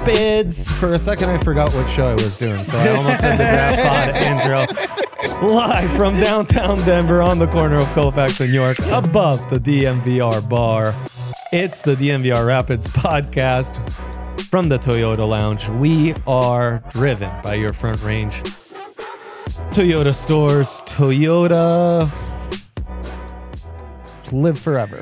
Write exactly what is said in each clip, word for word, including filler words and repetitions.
Rapids. For a second, I forgot what show I was doing, so I almost did the Draft Pod intro. Live from downtown Denver on the corner of Colfax and York, above the D M V R bar. It's the D M V R Rapids podcast from the Toyota Lounge. We are driven by your Front Range Toyota stores. Toyota, live forever.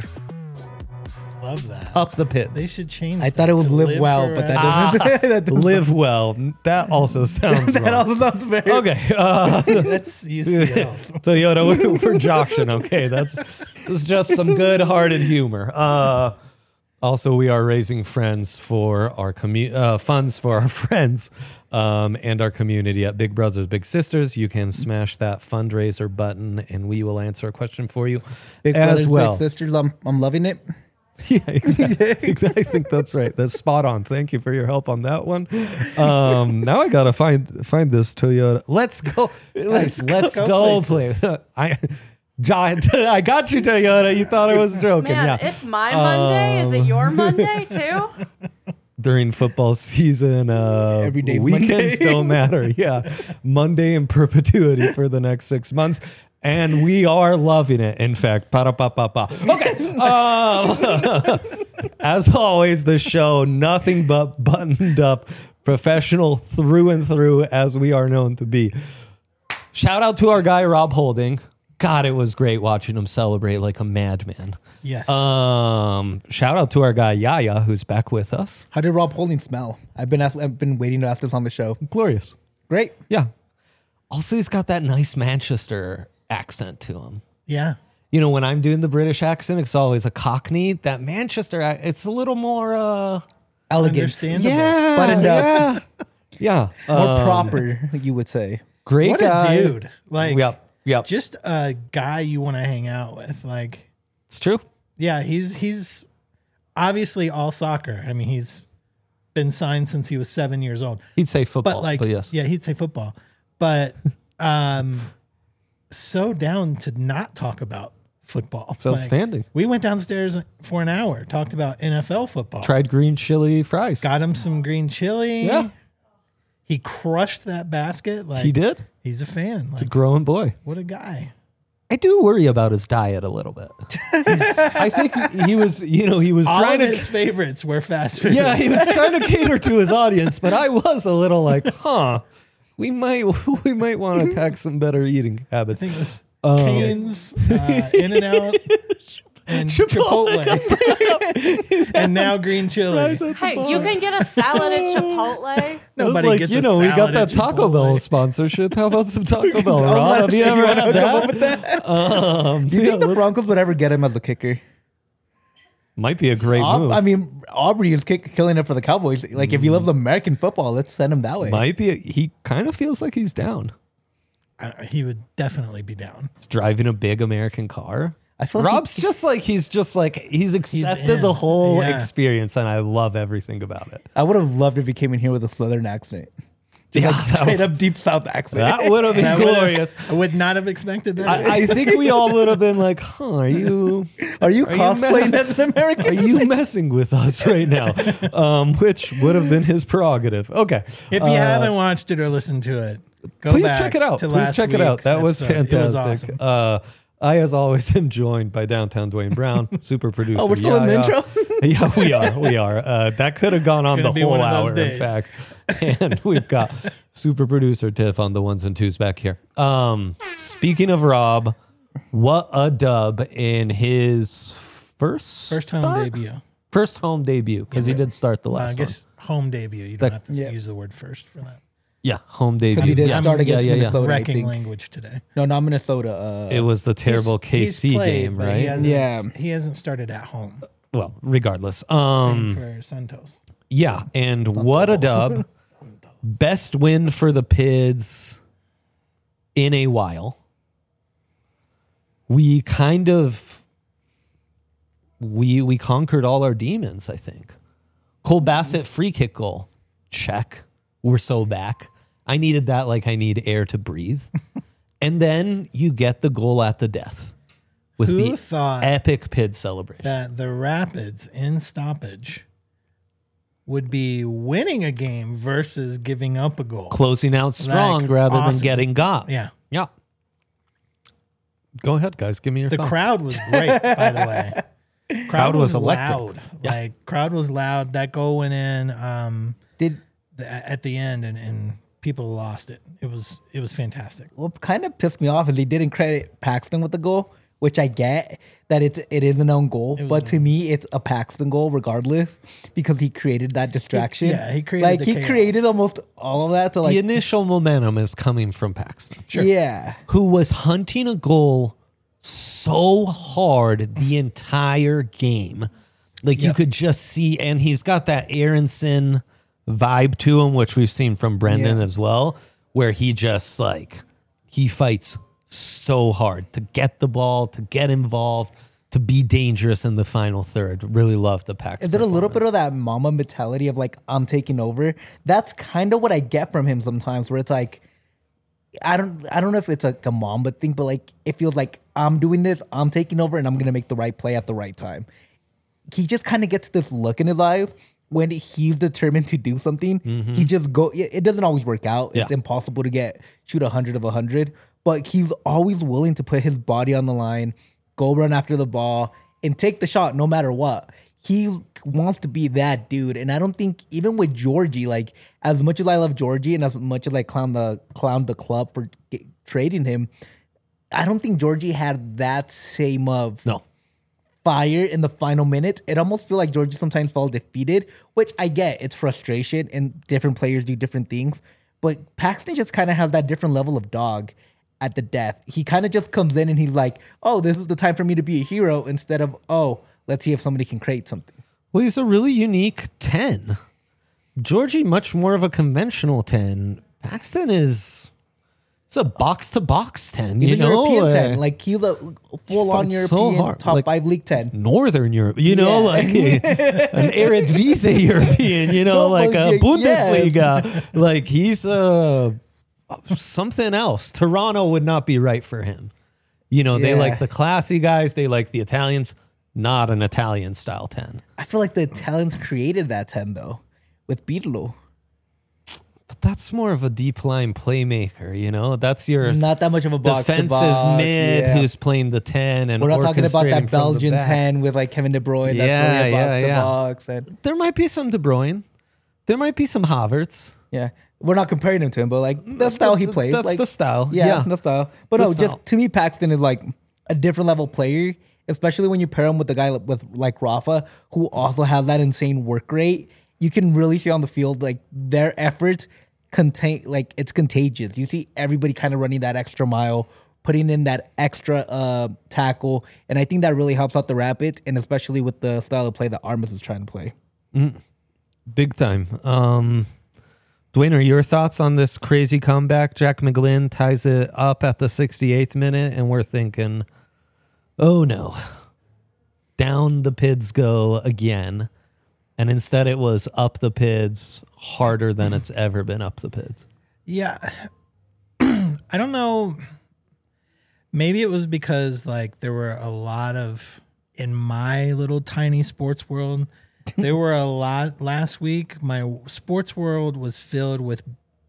Love that. Up the pits. They should change. I thought it was live, live well, but that doesn't. Ah, that doesn't live well. That also sounds that wrong. also sounds very Okay. Uh, that's U C L. Toyota, we're, we're joshing. Okay, that's that's just some good-hearted humor. Uh, also, we are raising friends for our commu- uh, funds for our friends um, and our community at Big Brothers Big Sisters. You can smash that fundraiser button, and we will answer a question for you Big as brothers, well. Big sisters. I'm I'm loving it. Yeah, exactly. exactly. I think that's right. That's spot on. Thank you for your help on that one. Um, now I gotta find find this Toyota. Let's go. Let's, let's go, go please. I, John, I got you, Toyota. You thought I was joking. Man, yeah. It's my Monday. Um, Is it your Monday too? During football season, uh, every day weekends don't matter. Yeah, Monday in perpetuity for the next six months. And we are loving it. In fact, pa-da-pa-pa-pa. Okay. Um, as always, the show, nothing but buttoned up, professional through and through, as we are known to be. Shout out to our guy, Rob Holding. God, it was great watching him celebrate like a madman. Yes. Um, shout out to our guy, Yaya, who's back with us. How did Rob Holding smell? I've been asked, I've been waiting to ask this on the show. Glorious. Great. Yeah. Also, he's got that nice Manchester accent to him. Yeah. You know, when I'm doing the British accent, it's always a Cockney. That Manchester, it's a little more uh, elegant, understandable, yeah, buttoned yeah, up, yeah, more um, proper, you would say. Great what guy, a dude! Like, yep, yep. just a guy you want to hang out with. Like, It's true. yeah, he's he's obviously all soccer. I mean, he's been signed since he was seven years old. He'd say football, But like, but yes, yeah, he'd say football. But um, so down to not talk about football. It's outstanding. Like, we went downstairs for an hour, talked about N F L football. Tried green chili fries. Got him some green chili. Yeah. He crushed that basket. Like He did. He's a fan. It's Like, a growing boy. what a guy. I do worry about his diet a little bit. I think he was, you know, he was All trying of to. his favorites were fast food. Yeah, he was trying to cater to his audience, but I was a little like, huh, we might we might want to attack some better eating I habits. think it was Um, Cane's, uh, In-N-Out, and Chipotle. and now green chili. Hey, you can get a salad at Chipotle. It was Nobody like, gets you a know, we got salad that at Taco Chipotle. Bell sponsorship. How about some Taco Bell, I'm Rob? not Have you sure ever you had wanna come up that? with that? Um, Do you yeah, think the let's- Broncos would ever get him as a kicker? might be a great Aub- move. I mean, Aubrey is kick, killing it for the Cowboys. Like, if he loves American football, let's send him that way. might be. A, he kind of feels like he's down. Uh, he would definitely be down. He's driving a big American car. I feel like Rob's he- just like he's just like he's accepted in. the whole Yeah. experience, and I love everything about it. I would have loved if he came in here with a Southern accent. Just Yeah, like that straight would- up deep South accent. That would have been That would've- glorious. I would not have expected that. I, I think we all would have been like, "Huh? Are you Are you Are you cosplaying mad? as an American? are you messing with us right now?" Um, which would have been his prerogative. Okay, if you haven't watched it or listened to it, go please back check it out. to Please last check it out. week's That was episode. fantastic. It was awesome. Uh, I, as always, am joined by downtown Dwayne Brown, super producer. Oh, we're still in the Yaya. intro? Yeah, we are. We are. Uh, that could have gone on gonna the be whole one of those hour, in days. fact. And we've got super producer Tiff on the ones and twos back here. Um, speaking of Rob, what a dub in his first First home start? debut. First home debut, because he did start the Uh, last I guess home debut. You don't have to Yeah. use the word first for that. one. Yeah, home debut. Because he did yeah. start yeah, against yeah, yeah. Minnesota, I Wrecking think. language today. No, not Minnesota. Uh, It was the terrible He's- K he's C played, game, but right? He hasn't, Yeah. He hasn't started at home. Well, regardless. Same Um, for Santos. yeah, and what a dub. Best win for the Pids in a while. We kind of we we conquered all our demons, I think. Cole Bassett free kick goal. Check. We're so back. I needed that like I need air to breathe. And then you get the goal at the death with Who the thought epic Pid celebration. that the Rapids in stoppage would be winning a game versus giving up a goal. Closing out strong Like, rather than awesome. getting got. Yeah. Yeah. Go ahead, guys. Give me your The thoughts. crowd was great, by the way. Crowd, Crowd was was, electric. loud. Yeah. Like crowd was loud. That goal went in um, Did the, at the end, and, and people lost it. It was it was fantastic. what kind of pissed me off is they didn't credit Paxton with the goal, which I get that it's it is an own goal, was but to me it's a Paxton goal regardless because he created that distraction. yeah, he created like the he chaos. created almost all of that to The like initial momentum is coming from Paxton, yeah. who was hunting a goal so hard the entire game. Like you Yep. could just see, and he's got that Aronson vibe to him, which we've seen from Brendan Yeah. as well, where he just like, he fights so hard to get the ball, to get involved, to be dangerous in the final third. Really love the Paxton. Is it a little bit performance. of that mama mentality of like I'm taking over? That's kind of what I get from him sometimes, where it's like I don't I don't know if it's like a mama thing, but like it feels like I'm doing this, I'm taking over, and I'm gonna make the right play at the right time. He just kind of gets this look in his eyes when he's determined to do something. He just go. It it doesn't always work out. It's Yeah. impossible to get shoot a hundred of a hundred, but he's always willing to put his body on the line, go run after the ball, and take the shot no matter what. He wants to be that dude, and I don't think even with Georgie, like as much as I love Georgie and as much as I clown the clown the club for get, trading him, I don't think Georgie had that same of No. fire in the final minutes. It almost feel like Georgia sometimes falls defeated, which I get. It's frustration and different players do different things. But Paxton just kind of has that different level of dog at the death. He kind of just comes in and he's like, oh, this is the time for me to be a hero instead of, oh, let's see if somebody can create something. Well, he's a really unique ten. Georgie, much more of a conventional ten. Paxton is it's a box to box ten. He's you a know, European Uh, ten. Like he's a full on fights so European hard. top Like- five league ten. Northern Europe, you know, Yeah. like a, an Eredivisie European, you know, No, like but a yeah, Bundesliga. Like he's uh, something else. Toronto would not be right for him. You know, they Yeah. like the classy guys. They like the Italians. Not an Italian style ten. I feel like the Italians created that ten though with Pirlo. But that's more of a deep line playmaker, you know? That's your Not that much of a box to defensive box, mid yeah. who's playing the ten and We're not talking about orchestrating that from the Belgian back. ten with like Kevin De Bruyne. That's Yeah, really a box yeah, to yeah. box. And There might be some De Bruyne. There might be some Havertz. yeah, we're not comparing him to him, but like the style he plays. That's like, the style. Yeah, Yeah. the style. But The no, style. just to me, Paxton is like a different level player, especially when you pair him with the guy with like Rafa, who also has that insane work rate. You can really see on the field like their efforts contain like it's contagious. You see everybody kind of running that extra mile, putting in that extra uh, tackle, and I think that really helps out the Rapids, and especially with the style of play that Armas is trying to play. Big time. Um, Dwayne, are your thoughts on this crazy comeback? Jack McGlynn ties it up at the sixty-eighth minute, and we're thinking, oh no, down the Pids go again. And instead it was up the Pids harder than it's ever been up the Pids. Yeah. I don't know. Maybe it was because like there were a lot of in my little tiny sports world, there were a lot last week. My sports world was filled with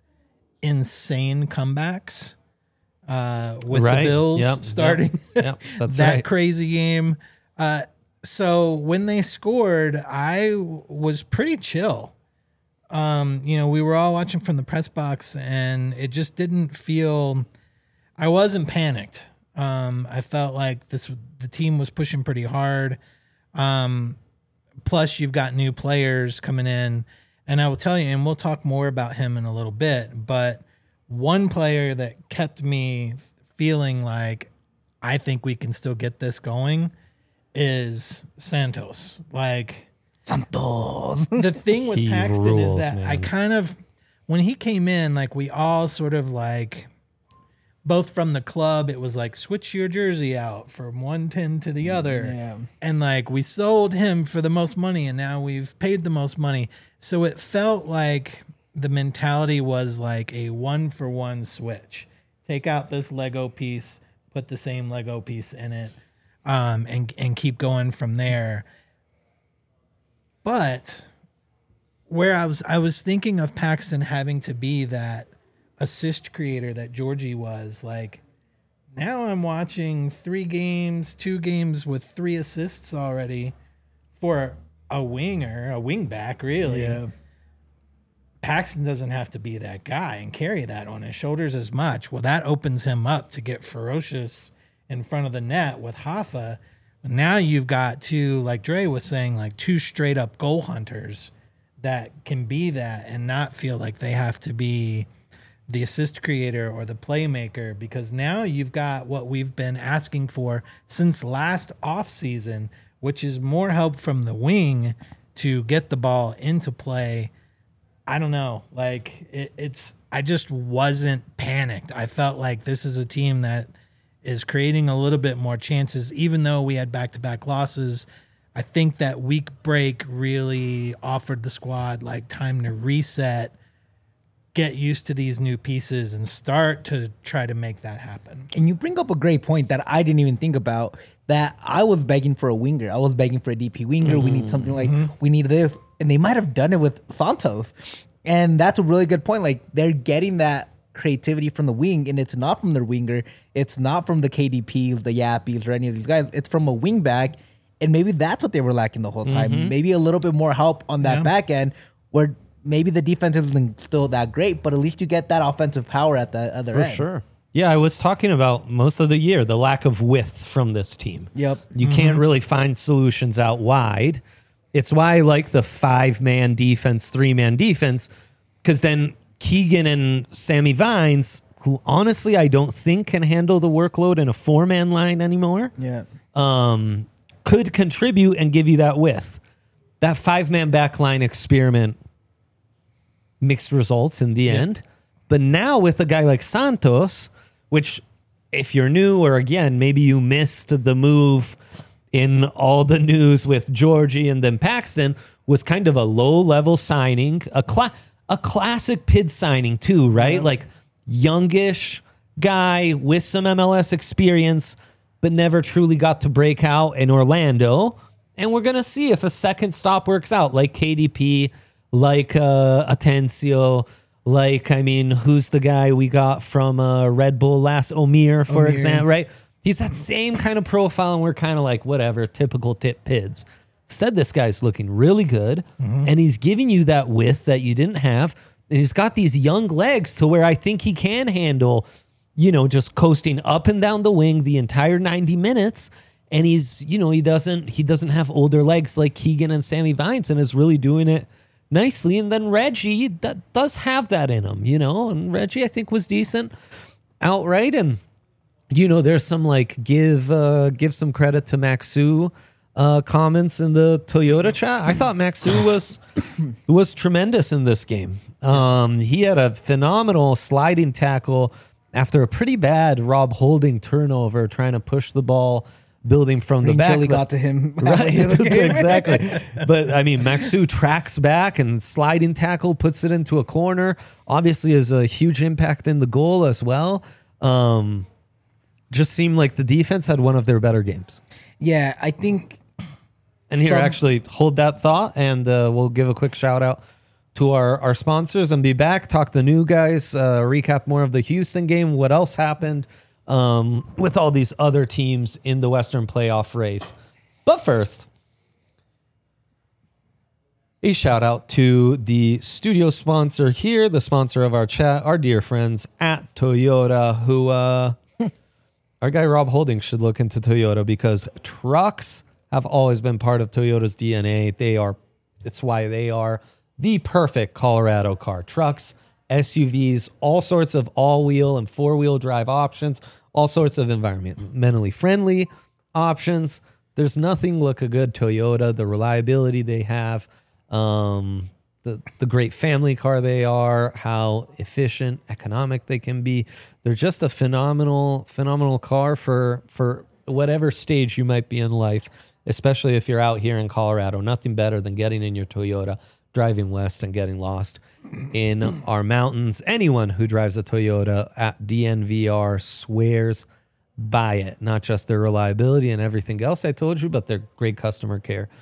insane comebacks. Uh, with Right. the Bills Yep, yep, starting yep, that's that right. crazy game. Uh, so when they scored, I w- was pretty chill. Um, you know, we were all watching from the press box, and it just didn't feel. I wasn't panicked. Um, I felt like this the team was pushing pretty hard. Um, plus, you've got new players coming in, and I will tell you, and we'll talk more about him in a little bit. But one player that kept me feeling like I think we can still get this going is Santos. Like Santos. the thing with He Paxton rules, is that I man. kind of, when he came in, like we all sort of like, both from the club, it was like switch your jersey out from one ten to the other. Yeah. And like we sold him for the most money and now we've paid the most money. So it felt like the mentality was like a one for one switch. Take out this Lego piece, put the same Lego piece in it, um, and and keep going from there. But where I was I was thinking of Paxton having to be that assist creator that Georgie was. Like, now I'm watching three games, two games with three assists already for a winger, a wing back, really. Yeah. Paxton doesn't have to be that guy and carry that on his shoulders as much. Well, that opens him up to get ferocious in front of the net with Hoffa. Now you've got two, like Dre was saying, like two straight up goal hunters that can be that and not feel like they have to be the assist creator or the playmaker, because now you've got what we've been asking for since last offseason, which is more help from the wing to get the ball into play. I don't know. Like it, it's, I just wasn't panicked. I felt like this is a team that is creating a little bit more chances, even though we had back-to-back losses. I think that week break really offered the squad like time to reset, get used to these new pieces, and start to try to make that happen. And you bring up a great point that I didn't even think about, that I was begging for a winger. I was begging for a D P winger. Mm-hmm. We need something like, mm-hmm. we need this. And they might have done it with Santos. And that's a really good point. Like, they're getting that creativity from the wing, and it's not from their winger. It's not from the K D Ps, the Yappies, or any of these guys. It's from a wing back. And maybe that's what they were lacking the whole time. Mm-hmm. Maybe a little bit more help on that yeah. back end, where maybe the defense isn't still that great, but at least you get that offensive power at the other For end. For sure. Yeah, I was talking about most of the year, the lack of width from this team. Yep. You mm-hmm. can't really find solutions out wide. It's why I like the five-man defense, three-man defense, because then Keegan and Sammy Vines, who honestly I don't think can handle the workload in a four-man line anymore, yeah, um, could contribute and give you that width. That five-man backline experiment, mixed results in the yeah. end. But now with a guy like Santos, which if you're new, or again, maybe you missed the move in all the news with Georgie and then Paxton, was kind of a low-level signing, a cla- a classic P I D signing too, right? Yeah. Like youngish guy with some M L S experience, but never truly got to break out in Orlando. And we're going to see if a second stop works out, like K D P, like uh, Atencio, like, I mean, who's the guy we got from uh, Red Bull last, Omir, for Omir. example, right? He's that same kind of profile, and we're kind of like, whatever, typical tip P I Ds. Instead, this guy's looking really good, mm-hmm. and he's giving you that width that you didn't have. And he's got these young legs to where I think he can handle, you know, just coasting up and down the wing the entire ninety minutes. And he's, you know, he doesn't he doesn't have older legs like Keegan and Sammy Vines, and is really doing it nicely. And then Reggie that does have that in him, you know, and Reggie I think was decent outright. And, you know, there's some like give uh, give some credit to Maxu uh, comments in the Toyota chat. I thought Maxu was was tremendous in this game. Um, he had a phenomenal sliding tackle after a pretty bad Rob Holding turnover, trying to push the ball, building from Green the back. Chili got to him. Right, exactly. But, I mean, Maxu tracks back and sliding tackle, puts it into a corner. Obviously has a huge impact in the goal as well. Um, just seemed like the defense had one of their better games. Yeah, I think... And here, some... actually, hold that thought, and uh, we'll give a quick shout-out to our, our sponsors and be back, talk the new guys, uh, recap more of the Houston game, what else happened um, with all these other teams in the Western playoff race. But first, a shout out to the studio sponsor here, the sponsor of our chat, our dear friends at Toyota, who uh, our guy Rob Holding should look into Toyota, because trucks have always been part of Toyota's D N A. They are, it's why they are the perfect Colorado car. Trucks, S U Vs, all sorts of all-wheel and four-wheel drive options, all sorts of environmentally friendly options. There's nothing like a good Toyota, the reliability they have, um, the, the great family car they are, how efficient, economic they can be. They're just a phenomenal, phenomenal car for, for whatever stage you might be in life, especially if you're out here in Colorado. Nothing better than getting in your Toyota, driving west, and getting lost in our mountains. Anyone who drives a Toyota at D N V R swears by it. Not just their reliability and everything else I told you, but their great customer care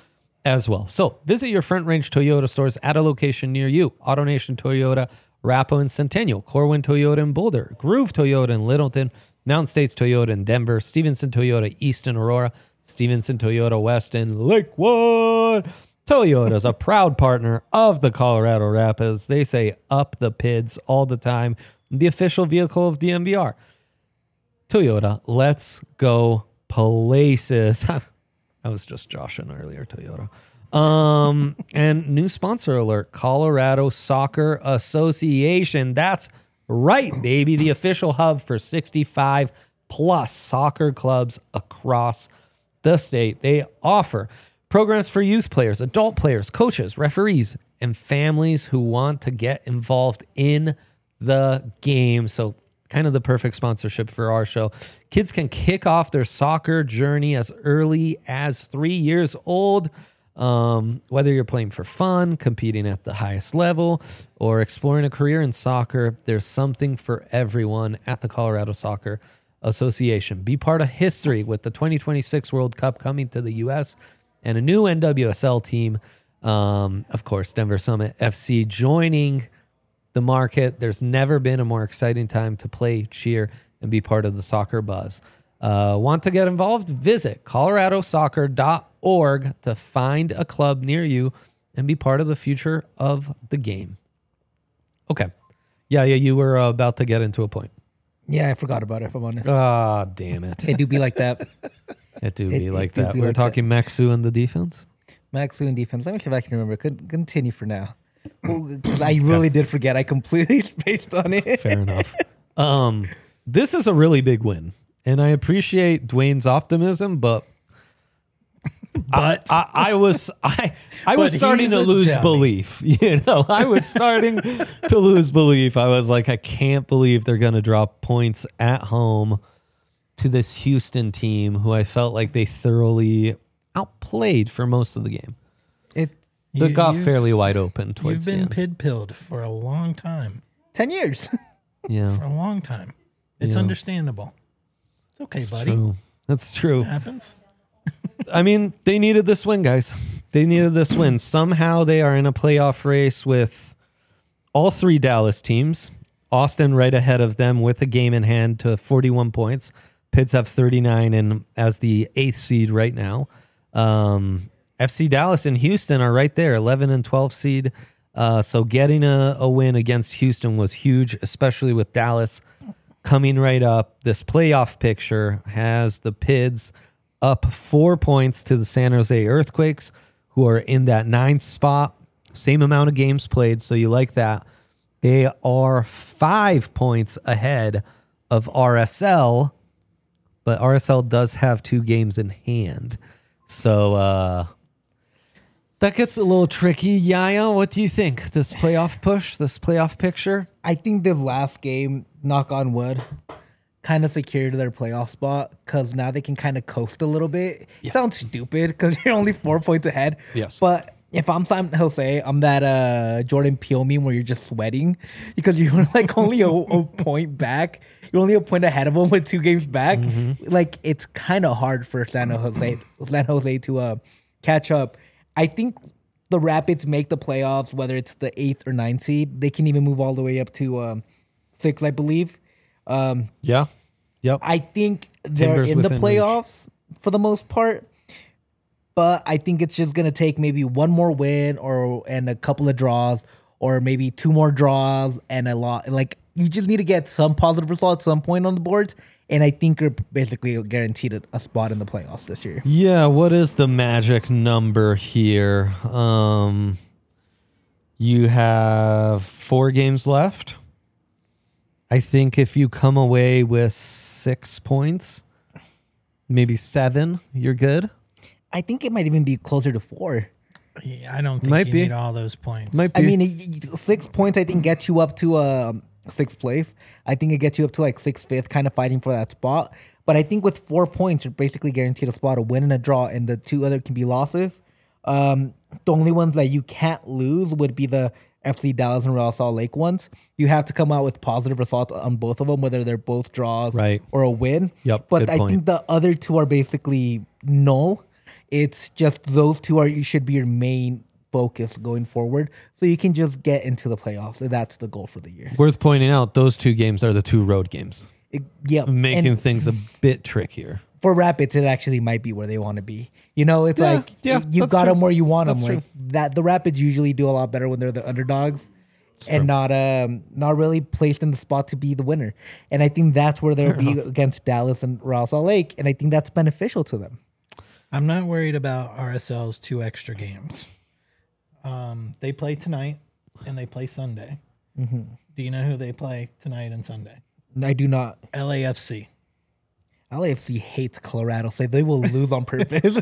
as well. So visit your Front Range Toyota stores at a location near you. AutoNation Toyota, Arapahoe and Centennial, Corwin Toyota in Boulder, Groove Toyota in Littleton, Mountain States Toyota in Denver, Stevenson Toyota East in Aurora, Stevenson Toyota West in Lakewood. Toyota is a proud partner of the Colorado Rapids. They say up the P I Ds all the time. The official vehicle of D M V R. Toyota, let's go places. I was just joshing earlier, Toyota. Um, and new sponsor alert, Colorado Soccer Association. That's right, baby. The official hub for sixty-five plus soccer clubs across the state. They offer programs for youth players, adult players, coaches, referees, and families who want to get involved in the game. So kind of the perfect sponsorship for our show. Kids can kick off their soccer journey as early as three years old. Um, whether you're playing for fun, competing at the highest level, or exploring a career in soccer, there's something for everyone at the Colorado Soccer Association. Be part of history with the twenty twenty-six World Cup coming to the U S and a new N W S L team. Um, of course, Denver Summit F C joining the market. There's never been a more exciting time to play, cheer, and be part of the soccer buzz. Uh, want to get involved? Visit colorado soccer dot org to find a club near you and be part of the future of the game. Okay. Yeah, yeah, you were uh, about to get into a point. Yeah, I forgot about it, if I'm honest. Ah, damn it. It do be like that. It do It- be it like do that. be We were like talking Maxu and the defense. Maxu and defense. Let me see if I can remember. Con- Continue for now. Because I really did forget. I completely spaced on it. Fair enough. Um, this is a really big win, and I appreciate Dwayne's optimism, but But I, I was I I was But starting he's to a lose dummy. belief. You know, I was starting to lose belief. I was like, I can't believe they're going to drop points at home to this Houston team, who I felt like they thoroughly outplayed for most of the game. It's They You- got you've- fairly wide open you've towards the been end. pid-pilled for a long time. ten years. Yeah, For a long time. It's Yeah. understandable. It's okay, That's buddy. true. That's true. It happens. I mean, they needed this win, guys. They needed this win. Somehow they are in a playoff race with all three Dallas teams. Austin right ahead of them with a game in hand to forty-one points. Pids have thirty-nine and as the eighth seed right now. Um, F C Dallas and Houston are right there, eleven and twelve seed. Uh, so getting a, a win against Houston was huge, especially with Dallas coming right up. This playoff picture has the Pids up four points to the San Jose Earthquakes, who are in that ninth spot. Same amount of games played, so you like that. They are five points ahead of R S L, but R S L does have two games in hand. So uh, that gets a little tricky. Yaya, what do you think? This playoff push, this playoff picture? I think this last game, knock on wood, kind of secured their playoff spot because now they can kind of coast a little bit. Yeah. It sounds stupid because you're only four points ahead. Yes. But if I'm San Jose, I'm that uh, Jordan Peele meme where you're just sweating because you're like only a, a point back. You're only a point ahead of them with two games back. Mm-hmm. Like, it's kind of hard for San Jose, San Jose to uh, catch up. I think the Rapids make the playoffs, whether it's the eighth or ninth seed. They can even move all the way up to um, six, I believe. Um, Yeah. Yep. I think they're Timbers in the within playoffs for the most part, but I think it's just gonna take maybe one more win or and a couple of draws, or maybe two more draws and a lot. Like, you just need to get some positive result at some point on the boards, and I think you're basically guaranteed a, a spot in the playoffs this year. Yeah, what is the magic number here? Um, you have four games left. I think if you come away with six points, maybe seven, you're good. I think it might even be closer to four. Yeah, I don't think Might you be. need all those points. Might I be. mean, it- it- six points I think gets you up to um, sixth place. I think it gets you up to like sixth, fifth, kind of fighting for that spot. But I think with four points, you're basically guaranteed a spot, a win and a draw, and the two other can be losses. Um, the only ones that you can't lose would be the F C Dallas and Real Salt Lake ones. You have to come out with positive results on both of them, whether they're both draws Right. or a win. Yep, But good I point. think the other two are basically null. It's just those two are you should be your main focus going forward, so you can just get into the playoffs. And that's the goal for the year. Worth pointing out, those two games are the two road games, It, yeah, making and things a bit trickier. for Rapids, it actually might be where they want to be. You know, it's Yeah, like yeah, you that's got true. them where you want them. That's Like true. that, the Rapids usually do a lot better when they're the underdogs. And not um not really placed in the spot to be the winner. And I think that's where they'll be against Dallas and Real Salt Lake. And I think that's beneficial to them. I'm not worried about R S L's two extra games. Um, they play tonight and they play Sunday. Mm-hmm. Do you know who they play tonight and Sunday? I do not. L A F C. L A F C hates Colorado, so they will lose on purpose.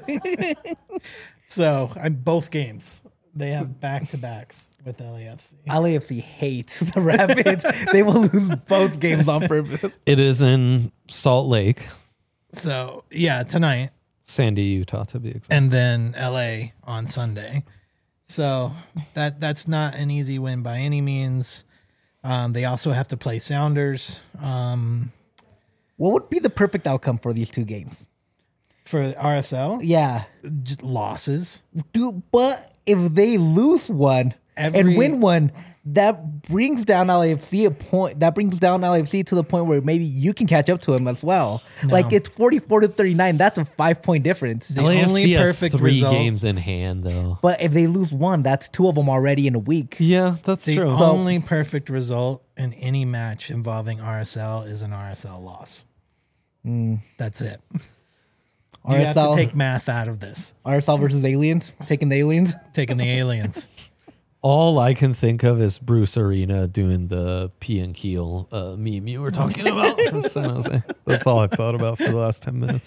So I'm both games. They have back to backs with L A F C. L A F C hates the Rapids. They will lose both games on purpose. It is in Salt Lake, So yeah, tonight Sandy, Utah, to be exact. and then L A on Sunday. So that that's not an easy win by any means. Um, they also have to play Sounders um, What would be the perfect outcome for these two games? for R S L. Yeah. Just losses. Dude, but if they lose one Every- and win one, that brings down L A F C a point. That brings down L A F C to the point where maybe you can catch up to them as well. Like it's forty-four to thirty-nine. That's a five point difference. The L A F C only has perfect three result- games in hand, though. But if they lose one, that's two of them already in a week. Yeah, that's The true. only perfect result in any match involving R S L is an R S L loss. That's it. You have R S L to take math out of this. R S L versus aliens, taking the aliens. Taking the aliens. All I can think of is Bruce Arena doing the P and Keel uh, meme you were talking about from San Jose. That's all I've thought about for the last ten minutes.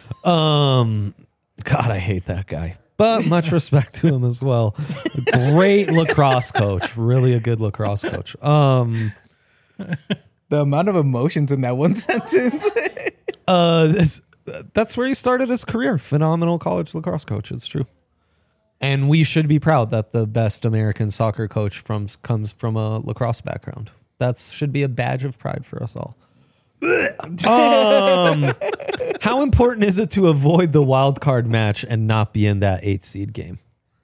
Um, God, I hate that guy. But much respect to him as well. Great lacrosse coach. Really a good lacrosse coach. Um, The amount of emotions in that one sentence. uh, this, that's where he started his career. Phenomenal college lacrosse coach. It's true. And we should be proud that the best American soccer coach from comes from a lacrosse background. That should be a badge of pride for us all. um, how important is it to avoid the wild card match and not be in that eight seed game?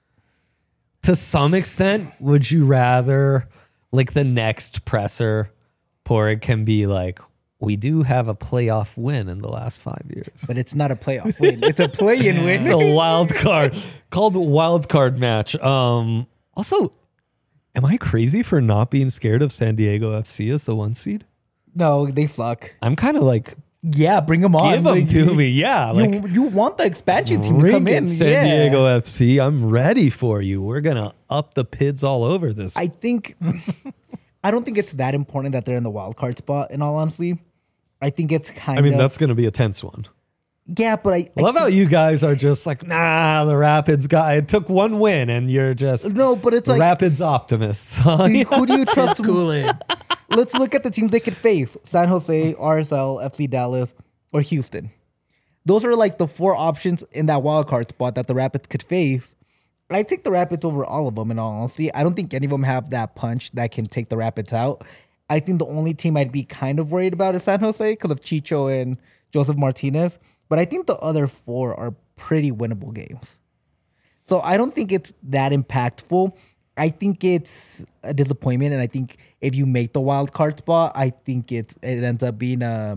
To some extent, would you rather, like the next presser, Porig can be like, we do have a playoff win in the last five years. But it's not a playoff win. It's a play-in win. It's a wild card called wild card match. Um, also, am I crazy for not being scared of San Diego F C as the one seed? No, they suck. I'm kind of like, Yeah, bring them on. give them Like, to you- me. Yeah, You, like you want the expansion team to bring come it, in. San yeah. Diego F C. I'm ready for you. We're gonna up the pids all over this. I think I don't think it's that important that they're in the wild card spot. In all honesty, I think it's kind I mean, of that's gonna be a tense one. yeah. But I, I love how you guys are just like, nah, the Rapids guy. It took one win, and you're just no, but it's like Rapids optimists. Huh? who do you trust? Kool-Aid. Let's look at the teams they could face: San Jose, R S L, F C Dallas, or Houston. Those are like the four options in that wild card spot that the Rapids could face. I take the Rapids over all of them. In all honesty, I don't think any of them have that punch that can take the Rapids out. I think the only team I'd be kind of worried about is San Jose because of Chicho and Joseph Martinez. But I think the other four are pretty winnable games. So I don't think it's that impactful. I think it's a disappointment. And I think if you make the wild card spot, I think it's, it ends up being a,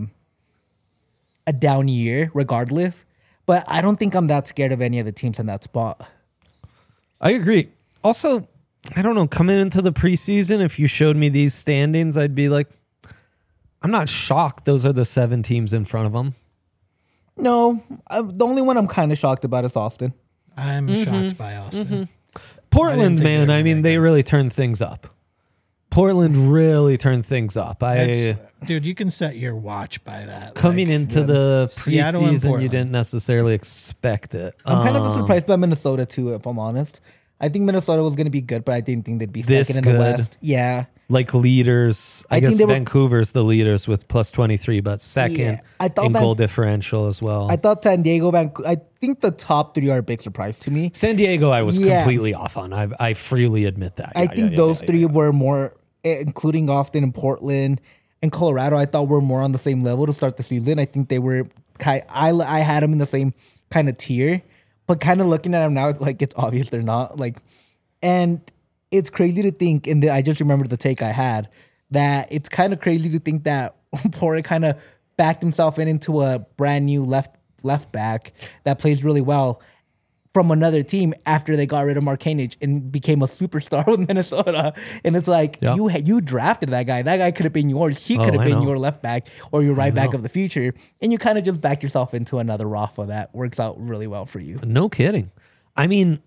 a down year regardless. But I don't think I'm that scared of any of the teams in that spot. I agree. Also, I don't know, coming into the preseason, if you showed me these standings, I'd be like, I'm not shocked those are the seven teams in front of them. No, uh, the only one I'm kind of shocked about is Austin. I'm shocked by Austin. Portland, think man, they were I mean, that they really turned things up. Portland really turned things up. I That's- dude, you can set your watch by that. coming Like, into the Seattle and preseason, you Portland. didn't necessarily expect it. I'm kind Um, of surprised by Minnesota too, if I'm honest. I think Minnesota was going to be good, but I didn't think they'd be This second in the good. West. Yeah. like leaders. I, I think guess they were- Vancouver's the leaders with plus twenty-three, but second Yeah, I thought in Van- goal differential as well. I thought San Diego, Vancouver, I think the top three are a big surprise to me. San Diego, I was Yeah. completely off on. I, I freely admit that. I Yeah, think yeah, yeah, those yeah, three yeah. were more, eh, including Austin and Portland and Colorado, I thought were more on the same level to start the season. I think they were kind I I had them in the same kind of tier. but kind of looking at them now, it's like it's obvious they're not. Like, and it's crazy to think. And the, I just remembered the take I had that it's kind of crazy to think that Porter kind of backed himself in into a brand new left left back that plays really well from another team after they got rid of Markanich and became a superstar with Minnesota. And it's like, Yeah. you you drafted that guy. That guy could have been yours. He Oh, could have I been know. your left back or your right back know. of the future. And you kind of just back yourself into another Rafa that works out really well for you. No kidding. I mean,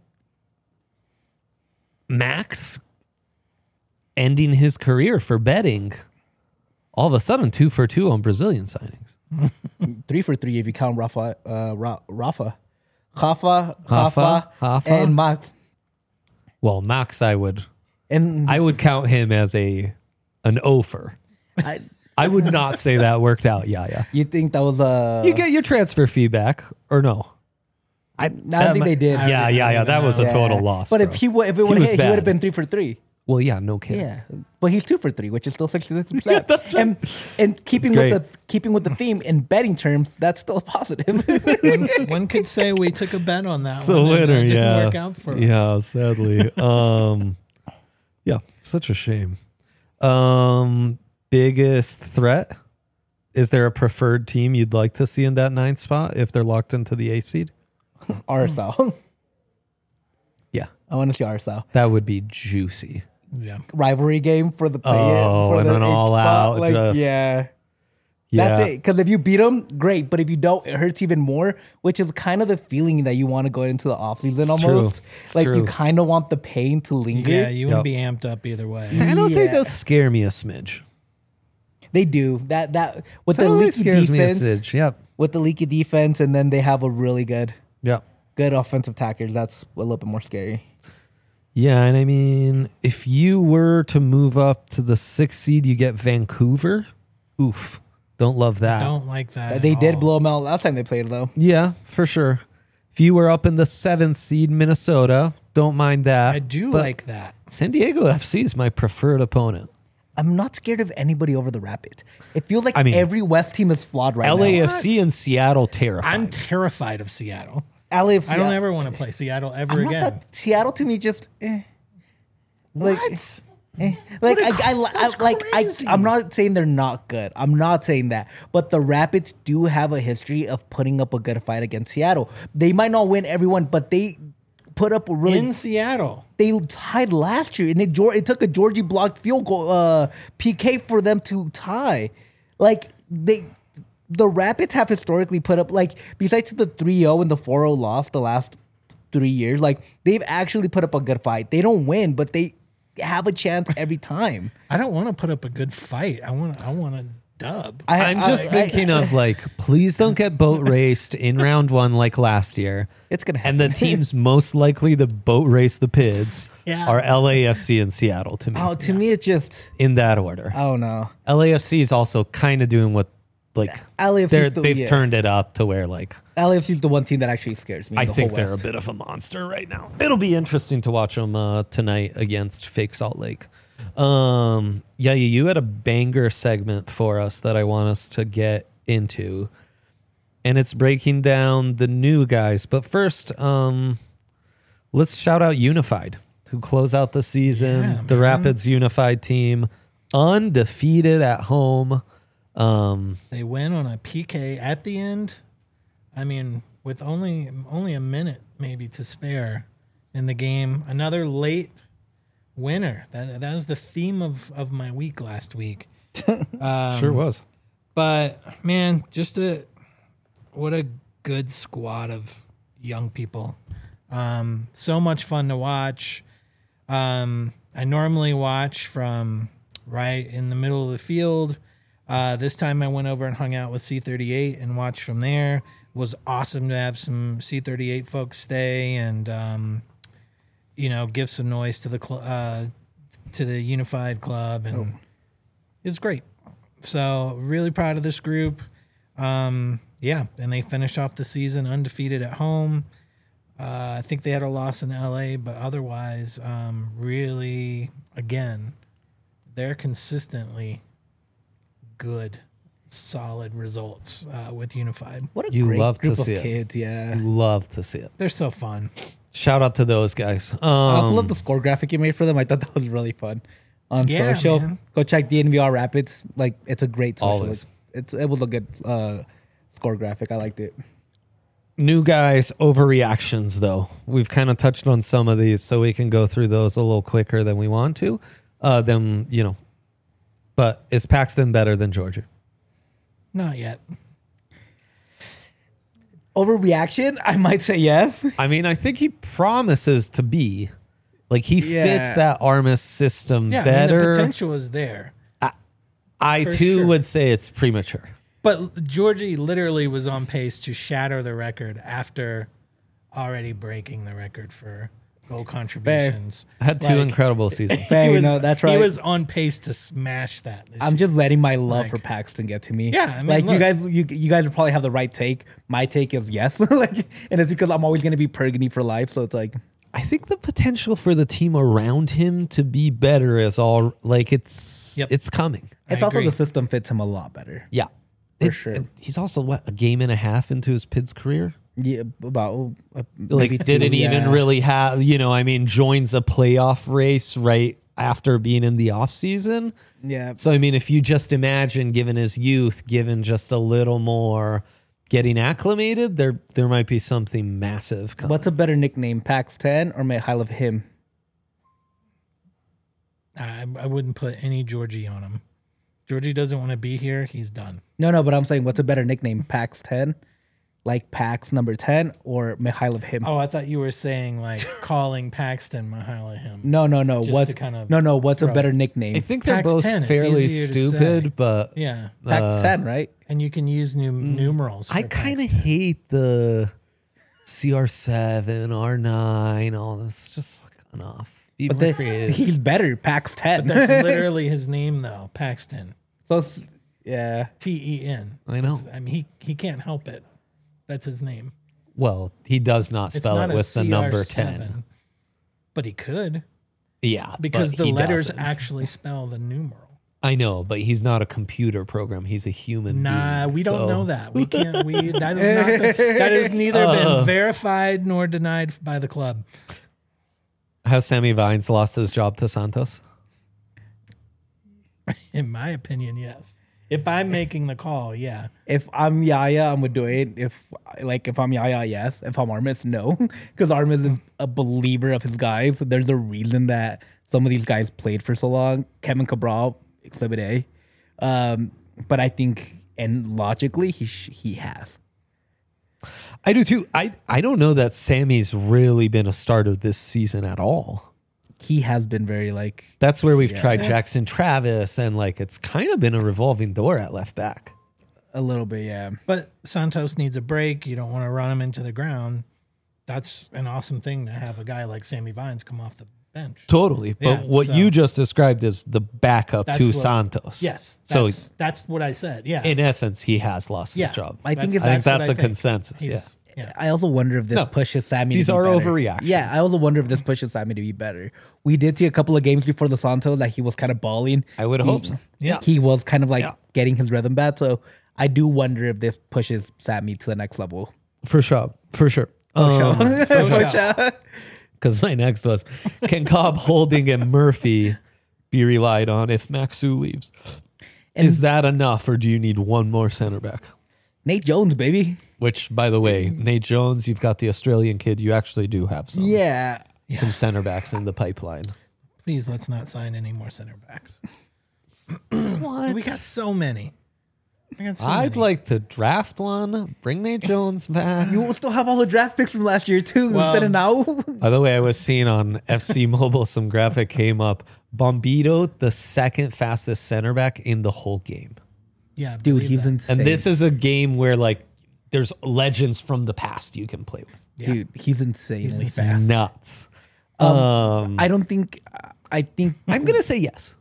Max ending his career for betting, all of a sudden two for two on Brazilian signings. Three for three if you count Rafa, uh, Ra- Rafa, Rafa, Rafa, Rafa, Rafa. and Max. Well, Max, I would And I would count him as a an offer. I, I would not say that worked out. Yeah, yeah. you think that was a? You get your transfer fee back or no? I, I don't think they did. Yeah, yeah, yeah. That was a Yeah. total loss. But bro. if he wa- if it would was have hit, he bad. would have been three for three. well, yeah, no kidding. Yeah, but he's two for three, which is still sixty-six percent. that's right. And and keeping That's with the keeping with the theme in betting terms, that's still a positive. one, one could say we took a bet on that It's a one. and winner. It didn't Yeah, work out for us. yeah. Sadly, um, yeah, such a shame. Um, biggest threat. Is there a preferred team you'd like to see in that ninth spot if they're locked into the eighth seed? R S L. Yeah, I want to see R S L that would be juicy. Yeah. rivalry game for the play. Oh, for and the then eighth all spot. out, Like, just- yeah. Yeah, That's it. Because if you beat them, great. But if you don't, it hurts even more, which is kind of the feeling that you want to go into the offseason It's true. almost. It's Like, you true. kind of want the pain to linger. Yeah, you wouldn't Yep. be amped up either way. San Jose Yeah. does scare me a smidge. They do. That, that with San the Jose leaky scares me a defense. smidge. Yep, With the leaky defense, and then they have a really good, yep. good offensive tackers. That's a little bit more scary. Yeah, and I mean, if you were to move up to the sixth seed, you get Vancouver. Oof, don't love that. Don't like that. at They did all. blow them out last time they played, though. Yeah, for sure. If you were up in the seventh seed, Minnesota, don't mind that. I do But like that. San Diego F C is my preferred opponent. I'm not scared of anybody over the Rapids. It feels like I mean, every West team is flawed right L A F C now. and Seattle terrified. I'm terrified of Seattle. L A F C. I don't ever want to play Seattle ever I'm not again. that- Seattle to me just eh. Like, What? eh. Like What a I, cr- I, I that's like I, crazy. I'm not saying they're not good. I'm not saying that. But the Rapids do have a history of putting up a good fight against Seattle. They might not win everyone, but they put up a really In Seattle. they tied last year, and it Geor- it took a Georgie blocked field goal uh, P K for them to tie. Like they, the Rapids have historically put up like besides the three oh and the four oh loss the last three years, like they've actually put up a good fight. They don't win, but they have a chance every time. I don't want to put up a good fight. I want. I want a dub. I, I'm just I- I- thinking of like, please don't get boat raced in round one like last year. It's gonna And the happen. teams most likely to boat race the Pids Yeah. are L A F C and Seattle to me. Oh, to me, it's just In that order. I don't know. L A F C is also kind of doing what like L A F C they're, is the- they've yeah. turned it up to where like L A F C is the one team that actually scares me. I the think whole they're a West. bit of a monster right now. It'll be interesting to watch them uh, tonight against Fake Salt Lake. Um, yeah, you had a banger segment for us that I want us to get into, and it's breaking down the new guys. But first, um, let's shout out Unified, who close out the season. Yeah, the man. Rapids Unified team, undefeated at home. Um, They win on a P K at the end. I mean, with only only a minute maybe to spare in the game. Another late winner. That that was the theme of, of my week last week. Um, sure was. But man, just a what a good squad of young people. Um, so much fun to watch. Um, I normally watch from right in the middle of the field. Uh, this time I went over and hung out with C thirty-eight and watched from there. It was awesome to have some C thirty-eight folks stay and um, you know give some noise to the cl- uh, to the Unified Club, and it was great. So really proud of this group. Um, yeah, and they finished off the season undefeated at home. Uh, I think they had a loss in L A, but otherwise, um, really, again, they're consistently good solid results uh, with Unified. What a You great love to group of see it. kids, yeah. Love to see it. They're so fun. Shout out to those guys. Um, I also love the score graphic you made for them. I thought that was really fun. On Yeah, social, man. go check D N V R Rapids. Like, it's a great social. Always. It's it was a good uh, score graphic. I liked it. New guys, overreactions though. We've kind of touched on some of these, so we can go through those a little quicker than we want to. Uh, then you know, but is Paxton better than Georgia? Not yet. Overreaction? I might say yes. I mean, I think he promises to be. Like he Yeah. fits that Armis system Yeah, I mean, better. the potential is there. I for too sure. would say it's premature. But Georgie literally was on pace to shatter the record after already breaking the record for goal contributions. Had two Like, incredible seasons. Fair, he was, no, that's He right. was on pace to smash that. this I'm year. just letting my love Like- for Paxton get to me. Yeah, I mean, like you look. guys, you you guys would probably have the right take. My take is yes, like, and it's because I'm always gonna be Pergany for life. So it's like, I think the potential for the team around him to be better is all like it's Yep. it's coming. it's I also agree. the system fits him a lot better. Yeah, For It- sure. it- he's also what a game and a half into his Pids career. Yeah, about uh, Like maybe two, didn't even yeah. really have you know. I mean, joins a playoff race right after being in the off season. Yeah. So I mean, if you just imagine, given his youth, given just a little more getting acclimated, there there might be something massive coming. What's a better nickname, Pax ten or Mikhailov him? I, I wouldn't put any Georgie on him. Georgie doesn't want to be here. He's done. No, no, but I'm saying what's a better nickname, Pax ten, like Pax number ten, or Mikhailov him? Oh, I thought you were saying like calling Paxton Mihaila him. No, no, no. Just What's to kind of no, no? What's a throw better it. nickname? I think they're Pax both ten, it's fairly easier to say. stupid, but Yeah, Pax uh, ten, right? and you can use new numerals. I for kind of Paxton. hate the C R seven, R nine, all this. Just like enough. Be But more the, creative. he's better, Pax ten. But that's literally his name though, Paxton. so it's- yeah. T E N. I know. I mean, he he can't help it. That's his name. Well, he does not It's spell not it a with the C R number seven, ten. but he could Yeah, because but the he letters doesn't. actually spell the numeral. I know, but he's not a computer program. He's a human Nah, being. we don't so- know that. We can't. We that is not. Been, that has neither Uh. been verified nor denied by the club. Has Sammy Vines lost his job to Santos? In my opinion, yes. If I'm making the call, yeah. If I'm Yaya, I'm gonna do it. If like if I'm Yaya, yes. If I'm Armis, no. Because Armis is a believer of his guys. There's a reason that some of these guys played for so long. Kevin Cabral, Exhibit A. Um, but I think, and logically, he sh- he has. I do too. I I don't know that Sammy's really been a starter this season at all. He has been very like That's where we've Yeah. tried Jackson Travis, and like it's kind of been a revolving door at left back. a little bit, yeah. But Santos needs a break. You don't want to run him into the ground. That's an awesome thing to have a guy like Sammy Vines come off the bench. Totally. But Yeah, what so- you just described is the backup That's to what- Santos. Yes. So That's, that's what I said. Yeah. in essence, he has lost yeah. his job. I think That's- it's- I think what that's a think. consensus. Yeah. He's- yeah. I also wonder if this No, pushes Sammy. these to be are better. overreactions. Yeah, I also wonder if this pushes Sammy to be better. We did see a couple of games before the Santos that he was kind of balling. I would He- hope so. Yeah. he was kind of like Yeah. getting his rhythm back. So I do wonder if this pushes Sammy to the next level. For sure. For sure. For sure. sure. Because my next was, can Cobb, Holding, and Murphy be relied on if Maxu leaves? Is that enough, or do you need one more center back? Nate Jones, baby. Which, by the way, Nate Jones, you've got the Australian kid. You actually do have some Yeah. some center backs in the pipeline. Please let's not sign any more center backs. What? We got so many. I got so I'd many. like to draft one, bring Nate Jones back. You will still have all the draft picks from last year, too. Well- Instead of now. By the way, I was seeing on F C Mobile, some graphic came up. Bombito, the second fastest center back in the whole game. yeah, Dude, believe he's that. insane. And this is a game where, like, there's legends from the past you can play with. Dude, he's insanely He's fast. Nuts. Um, I don't think. I think. I'm going to say yes.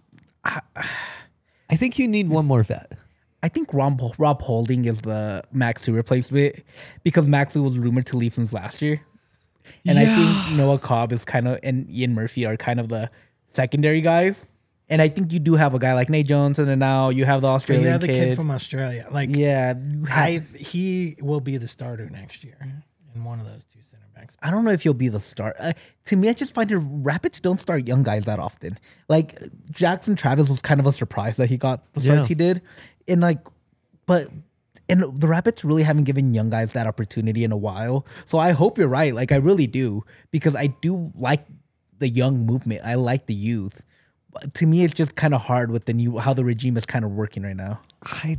I think you need one more vet. I think Rob, Rob Holding is the Maxu replacement because Maxu was rumored to leave since last year. And I think Noah Cobb is kind of, and Ian Murphy are kind of the secondary guys. And I think you do have a guy like Nate Jones, and then now you have the But Australian you have the kid. kid from Australia. Like, yeah, you have- I he will be the starter next year in one of those two center backs. I don't know if he'll be the start. Uh, to me, I just find it Rapids don't start young guys that often. Like Jackson Travis was kind of a surprise that he got the starts Yeah. he did, and like, but and the Rapids really haven't given young guys that opportunity in a while. So I hope you're right. Like I really do, because I do like the young movement. I like the youth. But to me, it's just kind of hard with the new how the regime is kind of working right now. I,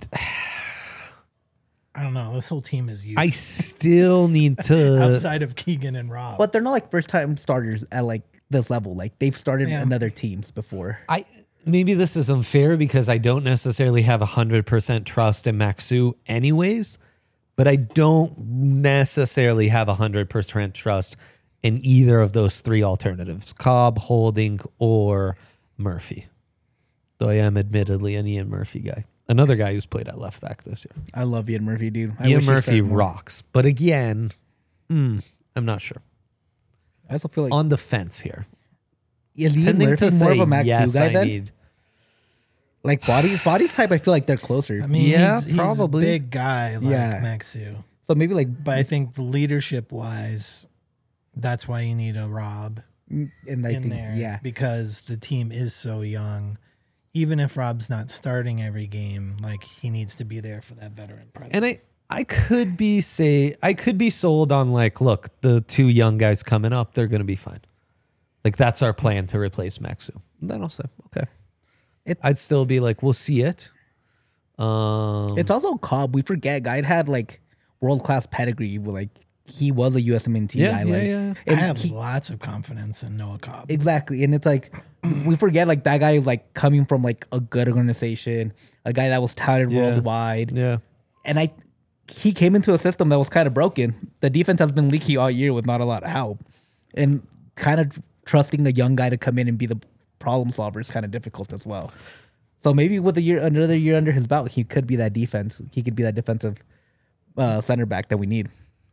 I don't know. This whole team is youth I still need to. outside of Keegan and Rob. But they're not like first time starters at like this level. Like they've started Yeah. in other teams before. I maybe this is unfair because I don't necessarily have a hundred percent trust in Maxu, anyways. But I don't necessarily have a hundred percent trust in either of those three alternatives: Cobb, Holding, or Murphy. Though I am admittedly an Ian Murphy guy, another guy who's played at left back this year. I love Ian Murphy, dude. I Ian wish he Murphy started more. rocks, but again, mm, I'm not sure. I also feel like On the fence here. is Ian Tending Murphy to more say of a Max yes, guy I then? need. Like bodies, bodies type. I feel like they're closer. I mean, Yeah, he's, he's probably. a big guy like Yeah. Maxu. so maybe like, But I think leadership wise, that's why you need a Rob and I in think there. yeah, Because the team is so young. Even if Rob's not starting every game, like he needs to be there for that veteran presence. And I, I could be say I could be sold on like, look, the two young guys coming up, they're gonna be fine. Like that's our plan to replace Maxu. And then I'll say, okay. It- I'd still be like, we'll see it. Um, it's also Cobb. We forget guy had like world class pedigree. Like he was a U S M N T Yeah, guy. yeah, like, yeah. I and have he- lots of confidence in Noah Cobb. exactly, and it's like we forget like that guy is like coming from like a good organization, a guy that was touted Yeah. worldwide, yeah. and I he came into a system that was kind of broken. The defense has been leaky all year with not a lot of help, and kind of trusting a young guy to come in and be the problem solver is kind of difficult as well. So maybe with a year another year under his belt, he could be that defense. He could be that defensive uh, center back that we need.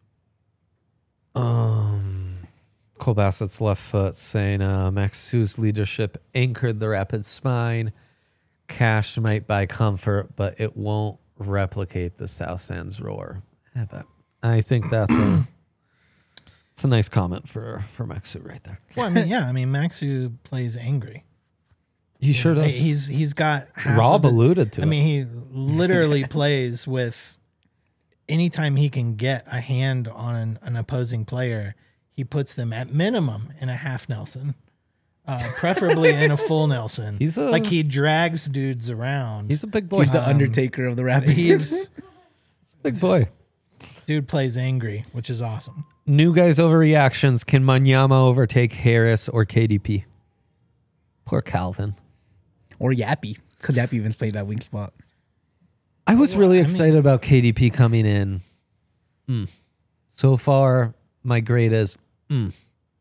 Um, Cole Bassett's left foot saying uh, Maxu's leadership anchored the Rapids' spine. Cash might buy comfort, but it won't replicate the South Sands roar. I bet. I think that's a it's a nice comment for for Maxu right there. Well, I mean, yeah, I mean, Maxu plays angry. He sure does. He's he's got half Rob of the- alluded to I it. mean, he literally plays with anytime he can get a hand on an, an opposing player, he puts them at minimum in a half Nelson, uh, preferably in a full Nelson. He's a- like he drags dudes around. He's a big boy. He's the Undertaker of the Rapids. He's big boy. dude plays angry, which is awesome. New guys overreactions. Can Manyama overtake Harris or K D P? Poor Calvin. or Yappy, because Yappy even played that wing spot. I was really I mean- excited about K D P coming in. Mm. So far, my grade is mm.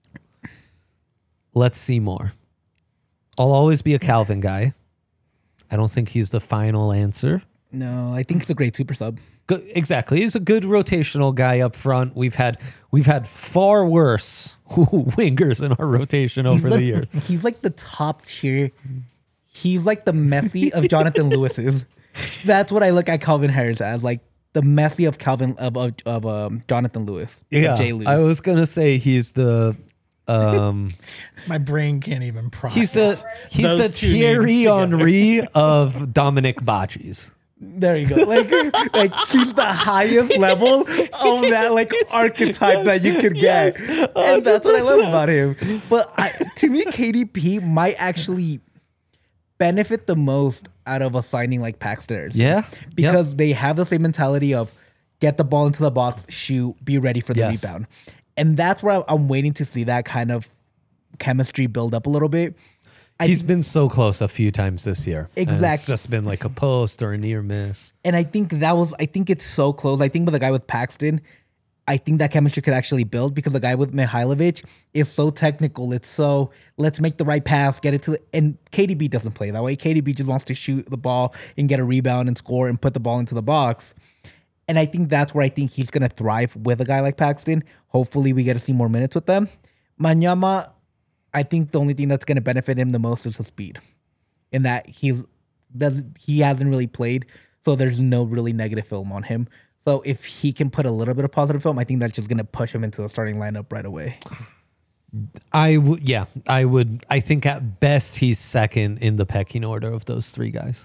Let's see more. I'll always be a Calvin guy. I don't think he's the final answer. No, I think it's a great super sub. Good, exactly. He's a good rotational guy up front. We've had we've had far worse wingers in our rotation over he's the like, years. He's like the top tier. He's like the Messi of Jonathan Lewis's. That's what I look at Calvin Harris as, like the Messi of Calvin of of, of um, Jonathan Lewis. of Yeah, Jay Lewis. I was gonna say he's the um My brain can't even process. he's the he's those the two names Thierry together. Henry of Dominic Bacchis. There you go. Like, like he's the highest level of that like archetype that you could get, and that's what I love about him. But I, to me, K D P might actually benefit the most out of a signing like Paxton. Yeah, because Yep. they have the same mentality of get the ball into the box, shoot, be ready for the Yes. rebound, and that's where I'm waiting to see that kind of chemistry build up a little bit. I He's been so close a few times this year. And it's Exactly. just been like a post or a near miss. And I think that was, I think it's so close. I think with the guy with Paxton, I think that chemistry could actually build because the guy with Mihailovic is so technical. It's so, let's make the right pass, get it to, and K D B doesn't play that way. K D B just wants to shoot the ball and get a rebound and score and put the ball into the box. And I think that's where I think he's going to thrive with a guy like Paxton. Hopefully we get to see more minutes with them. Manyama, I think the only thing that's going to benefit him the most is the speed. in that he's does he hasn't really played, so there's no really negative film on him. So if he can put a little bit of positive film, I think that's just going to push him into the starting lineup right away. I would, yeah, I would. I think at best he's second in the pecking order of those three guys.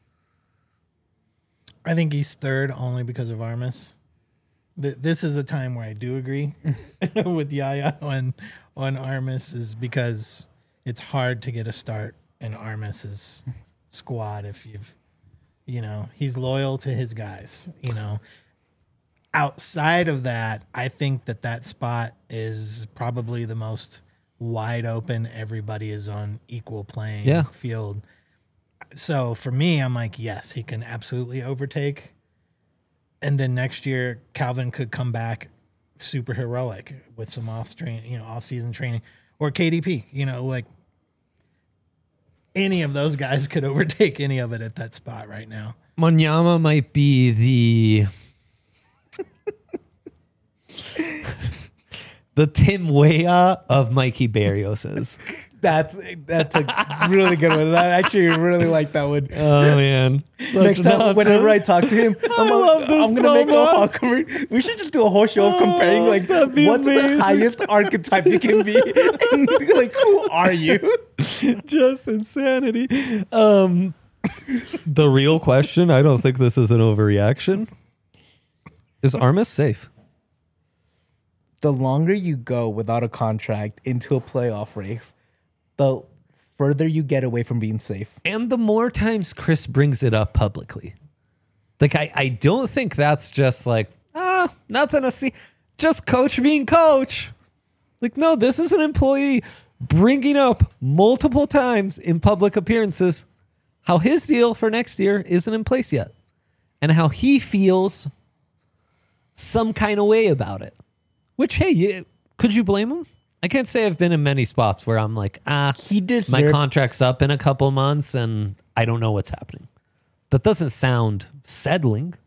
I think he's third only because of Armas. Th- this is a time where I do agree with Yaya on on Armas, is because it's hard to get a start in Armas's squad if you've, you know, he's loyal to his guys. You know, outside of that, I think that that spot is probably the most wide open. Everybody is on equal playing Yeah. field. So for me, I'm like, yes, he can absolutely overtake. And then next year, Calvin could come back super heroic with some off train, you know, off season training, or K D P. You know, like any of those guys could overtake any of it at that spot right now. Monyama might be the the Tim Weah of Mikey Barrios's. That's that's a really good one. I actually really like that one. Oh man! Next time, whenever I talk to him, I'm, love a, this I'm gonna so make much. a Hawk conver- We should just do a whole show of comparing, Oh, like, that'd be what's amazing. the highest archetype you can be, and, like, who are you? just insanity. Um, the real question, I don't think this is an overreaction. Is Armas safe? The longer you go without a contract into a playoff race, the further you get away from being safe. And the more times Chris brings it up publicly. Like, I, I don't think that's just like, ah, nothing to see. Just coach being coach. Like, no, this is an employee bringing up multiple times in public appearances how his deal for next year isn't in place yet. And how he feels some kind of way about it. Which, hey, you, could you blame him? I can't say I've been in many spots where I'm like, ah, He deserves- my contract's up in a couple months and I don't know what's happening. That doesn't sound settling.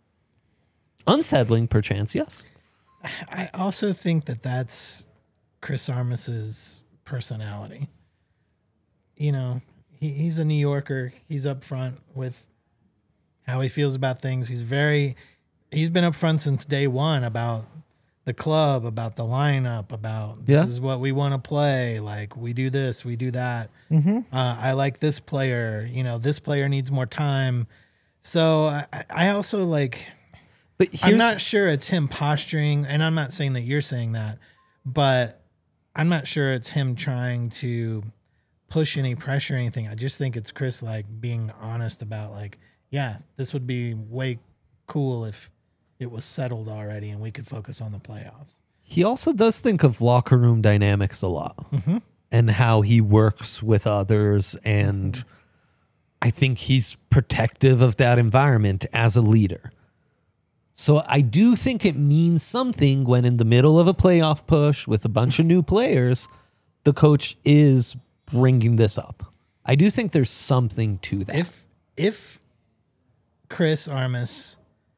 Unsettling, perchance, yes. I also think that that's Chris Armas's personality. You know, he, he's a New Yorker. He's upfront with how he feels about things. He's very, he's been upfront since day one about the club, about the lineup, about this Yeah. is what we want to play. Like, we do this, we do that. Uh, I like this player. You know, this player needs more time. So I, I also like. But I'm here's, not sure it's him posturing, and I'm not saying that you're saying that, but I'm not sure it's him trying to push any pressure or anything. I just think it's Chris like being honest about like, yeah, this would be way cool if it was settled already and we could focus on the playoffs. he also does think of locker room dynamics a lot and how he works with others. And I think he's protective of that environment as a leader. So I do think it means something when in the middle of a playoff push with a bunch of new players, the coach is bringing this up. I do think there's something to that. If if Chris Armas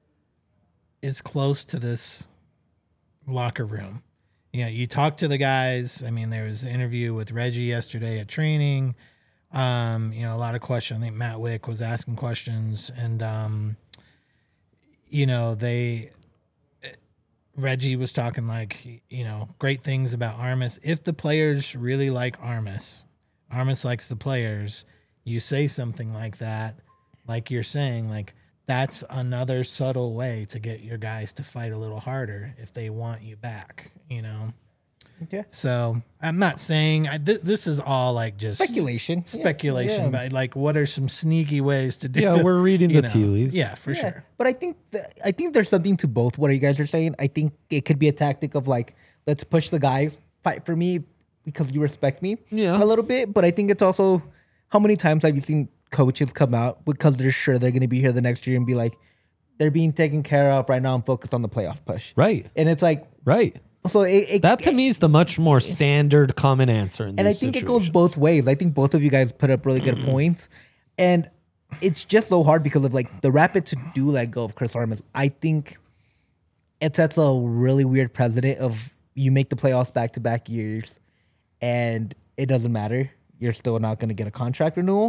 is close to this locker room, you know, you talk to the guys. I mean, there was an interview with Reggie yesterday at training. Um, you know, a lot of questions. I think Matt Wick was asking questions, and um, you know, they Reggie was talking like, you know, great things about Armas. If the players really like Armas, Armas likes the players, you say something like that, like you're saying, like that's another subtle way to get your guys to fight a little harder if they want you back, you know? Yeah. So I'm not saying I, th- this is all like just Speculation. speculation, Yeah. but like, what are some sneaky ways to do Yeah, it? we're reading You the tea leaves. Yeah, for Yeah, sure. But I think th- I think there's something to both what you guys are saying. I think it could be a tactic of like, let's push the guys, fight for me because you respect me Yeah. a little bit. But I think it's also, how many times have you seen coaches come out because they're sure they're going to be here the next year and be like, they're being taken care of right now. I'm focused on the playoff push. Right. And it's like, Right. so it, it That to me is the much more standard common answer. In and I these think it goes situations. both ways. I think both of you guys put up really good points, and it's just so hard because of like the Rapids do let go of Chris Armas. I think it sets a really weird precedent of you make the playoffs back to back years, and it doesn't matter. You're still not going to get a contract renewal.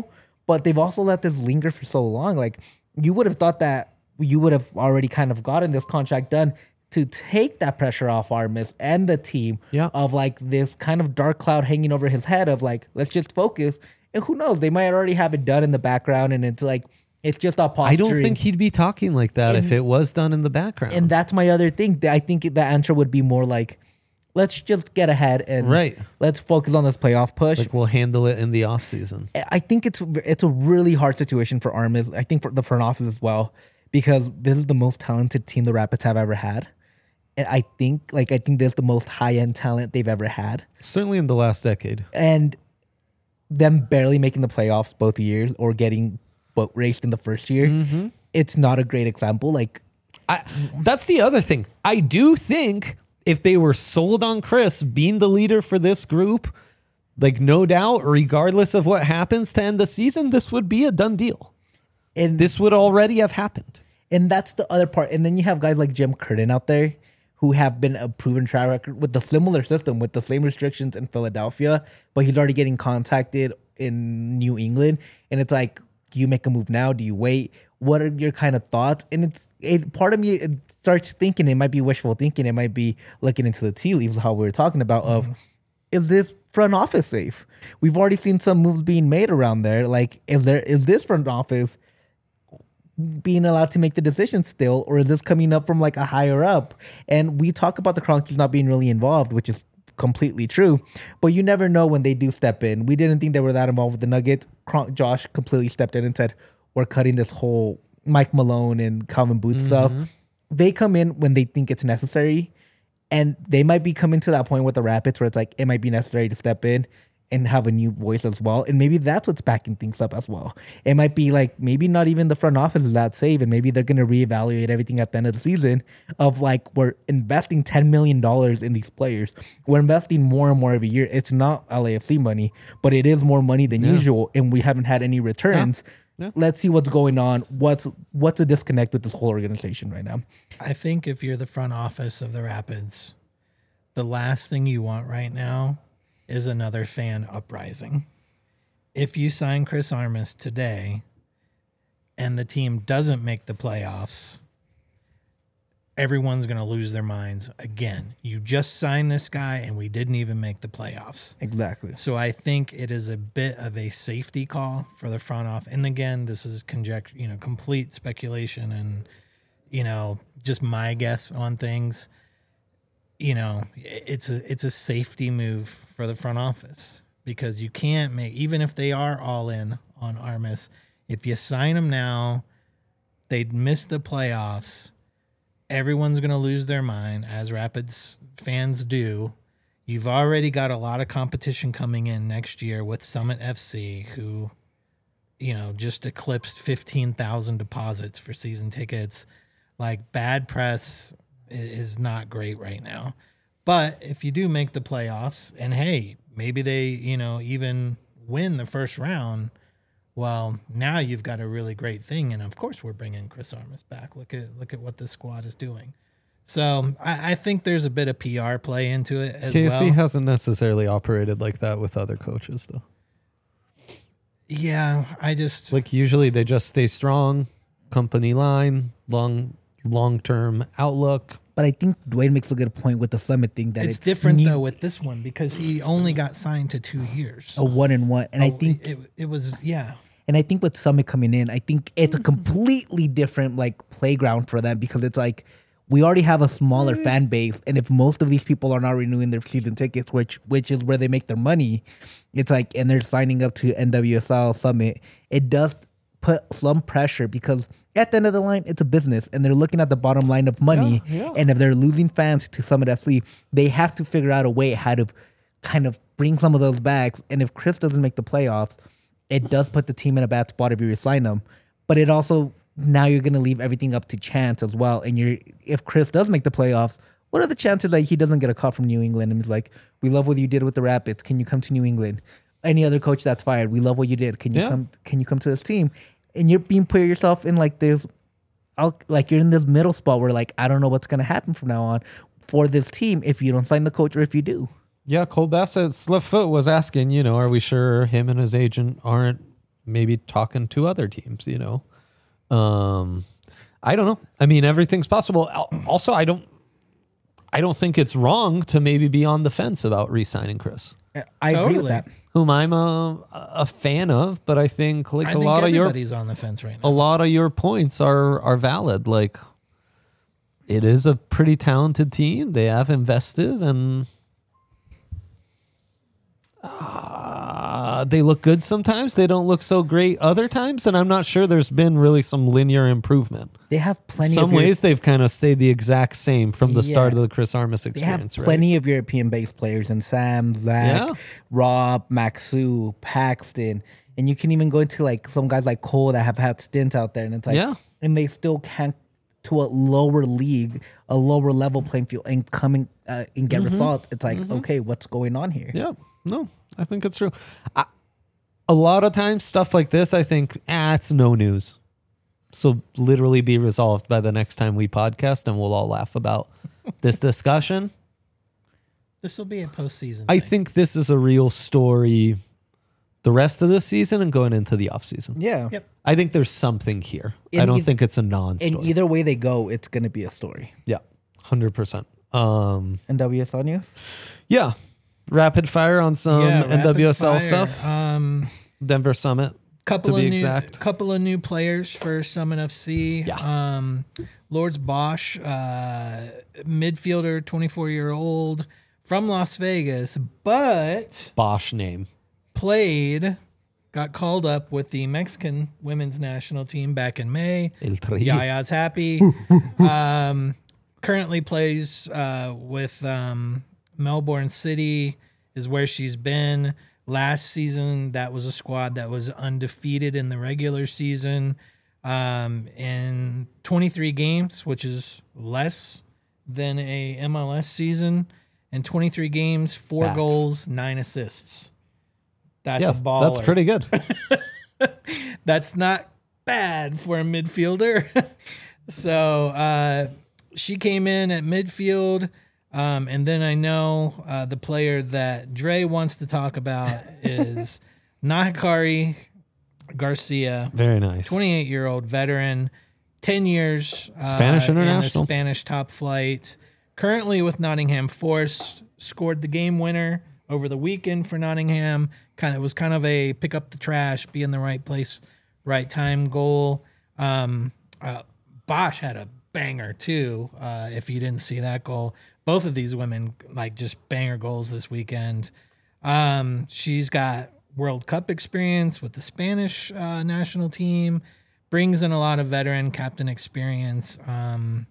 but they've also let this linger for so long. Like you would have thought that you would have already kind of gotten this contract done to take that pressure off Armas and the team Yeah. of like this kind of dark cloud hanging over his head of like, let's just focus. And who knows, they might already have it done in the background and it's like, it's just all posturing. I don't think he'd be talking like that And- if it was done in the background. And that's my other thing. I think the answer would be more like, let's just get ahead and Right. let's focus on this playoff push. like we'll handle it in the offseason. I think it's it's a really hard situation for Armas. I think for the front office as well, because this is the most talented team the Rapids have ever had. And I think like I think this is the most high end talent they've ever had. Certainly in the last decade. And them barely making the playoffs both years or getting boat raced in the first year, Mm-hmm. it's not a great example. Like I, that's the other thing. I do think if they were sold on Chris being the leader for this group, like no doubt, regardless of what happens to end the season, this would be a done deal. and This would already have happened. And that's the other part. And then you have guys like Jim Curtin out there who have been a proven track record with the similar system, with the same restrictions in Philadelphia, but he's already getting contacted in New England. And it's like, do you make a move now? Do you wait? What are your kind of thoughts? And it's it, part of me it starts thinking it might be wishful thinking. It might be looking into the tea leaves, how we were talking about of, is this front office safe? We've already seen some moves being made around there. Like, is there is this front office being allowed to make the decision still, or is this coming up from like a higher up? And we talk about the Kroenkes not being really involved, which is completely true, but you never know when they do step in. We didn't think they were that involved with the Nuggets. Kron- Josh completely stepped in and said, we're cutting this whole Mike Malone and Calvin Booth stuff. They come in when they think it's necessary, and they might be coming to that point with the Rapids where it's like, it might be necessary to step in and have a new voice as well. And maybe that's what's backing things up as well. It might be like, maybe not even the front office is that safe, and maybe they're going to reevaluate everything at the end of the season of like, we're investing ten million dollars in these players. We're investing more and more every year. It's not L A F C money, but it is more money than usual, and we haven't had any returns. Yeah. Let's see what's going on. What's what's a disconnect with this whole organization right now? I think if you're the front office of the Rapids, the last thing you want right now is another fan uprising. If you sign Chris Armas today and the team doesn't make the playoffs, everyone's going to lose their minds again. You just signed this guy and we didn't even make the playoffs. Exactly. So I think it is a bit of a safety call for the front office. And again, this is conjecture, you know, complete speculation and, you know, just my guess on things. You know, it's a it's a safety move for the front office because you can't make, even if they are all in on Armas, if you sign them now, they'd miss the playoffs. Everyone's going to lose their mind, as Rapids fans do. You've already got a lot of competition coming in next year with Summit F C, who, you know, just eclipsed fifteen thousand deposits for season tickets. Like, bad press is not great right now. But if you do make the playoffs, and hey, maybe they, you know, even win the first round, well, now you've got a really great thing. And of course, we're bringing Chris Armas back. Look at look at what this squad is doing. So I, I think there's a bit of P R play into it as K S C well. hasn't necessarily operated like that with other coaches, though. Yeah, I just Like usually they just stay strong, company line, long long term outlook. But I think Dwayne makes a good point with the Summit thing that it's, it's, different new- though with this one because he only got signed to two years. a one and one. And I Oh, think it, it was yeah. And I think with Summit coming in, I think it's a completely different like playground for them because it's like we already have a smaller fan base, and if most of these people are not renewing their season tickets, which which is where they make their money, it's like and they're signing up to N W S L Summit, it does put some pressure because at the end of the line, it's a business, and they're looking at the bottom line of money. Yeah, yeah. And if they're losing fans to Summit F C, they have to figure out a way how to kind of bring some of those back. And if Chris doesn't make the playoffs, it does put the team in a bad spot if you resign them. But it also, now you're going to leave everything up to chance as well. And you're if Chris does make the playoffs, what are the chances that he doesn't get a call from New England and he's like, we love what you did with the Rapids. Can you come to New England? Any other coach that's fired, we love what you did. Can you Yeah. come Can you come to this team? And you're being put yourself in like this, I'll, like you're in this middle spot where like, I don't know what's going to happen from now on for this team if you don't sign the coach or if you do. Yeah, Cole Bassett, Slipfoot was asking, you know, are we sure him and his agent aren't maybe talking to other teams, you know. Um, I don't know. I mean, everything's possible. Al- Also, I don't I don't think it's wrong to maybe be on the fence about re-signing Chris, I agree with Totally. that. whom I'm a a fan of, but I think like I a think lot of your everybody's on the fence right a now. lot of your points are are valid. Like, it is a pretty talented team. They have invested, and uh, they look good sometimes. They don't look so great other times, and I'm not sure there's been really some linear improvement. They have plenty Some of Euro- ways they've kind of stayed the exact same from the start Yeah. of the Chris Armas they have experience. Right? plenty of European-based players and Sam, Zach, Yeah. Rob, Maxu, Paxton, and you can even go into like some guys like Cole that have had stints out there, and it's like, Yeah. and they still can't to a lower league, a lower level playing field, and coming uh, and get results. It's like, okay, what's going on here? Yeah, no, I think it's true. I, a lot of times, stuff like this, I think, ah, it's no news. So literally be resolved by the next time we podcast, and we'll all laugh about this discussion. This will be a postseason. I thing. think this is a real story the rest of the season and going into the offseason. Yeah. Yep. I think there's something here. I In don't eith- think it's a And non-story. either way they go, it's going to be a story. Yeah, one hundred percent. Um, And W S L news? yeah, rapid fire on some Yeah, N W S L rapid fire. stuff. Um, Denver Summit. couple To of be new, exact. couple of new players for Summit F C. Yeah. Um, Lords Bosch, uh, midfielder, twenty-four year old from Las Vegas, but Bosch name. played, got called up with the Mexican women's national team back in May. El Tri. Yaya's happy. um, currently plays uh, with um, Melbourne City, is where she's been. Last season, that was a squad that was undefeated in the regular season. Um, in twenty-three games, which is less than a M L S season. In twenty-three games, four Facts. goals, nine assists. That's Yeah, a baller. that's pretty good. That's not bad for a midfielder. so uh, she came in at midfield. Um, and then I know uh, the player that Dre wants to talk about is Nahikari Garcia, Very nice. twenty-eight-year-old veteran, ten years uh, Spanish in the international. Spanish top flight. Currently with Nottingham Forest, scored the game winner over the weekend for Nottingham. Kind of it was kind of a pick up the trash, be in the right place, right time goal. Um, uh, Bosch had a banger too. Uh, if you didn't see that goal, both of these women like just banger goals this weekend. Um, she's got World Cup experience with the Spanish uh, national team, brings in a lot of veteran captain experience. Um,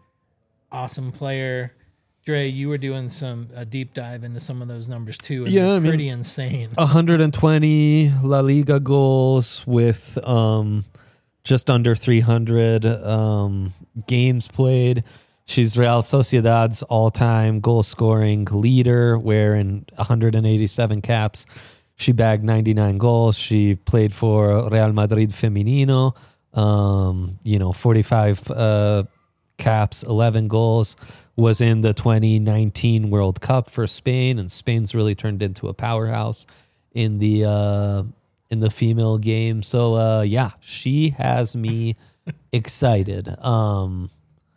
awesome player. Dre, you were doing some a deep dive into some of those numbers too, and Yeah, they're I mean- pretty insane. one hundred twenty La Liga goals with um, just under three hundred um, games played. She's Real Sociedad's all-time goal-scoring leader, where in one hundred eighty-seven caps, she bagged ninety-nine goals. She played for Real Madrid Femenino, um, you know, forty-five uh, caps, eleven goals. Was in the twenty nineteen World Cup for Spain, and Spain's really turned into a powerhouse in the uh, in the female game. So uh, yeah, she has me excited. Um,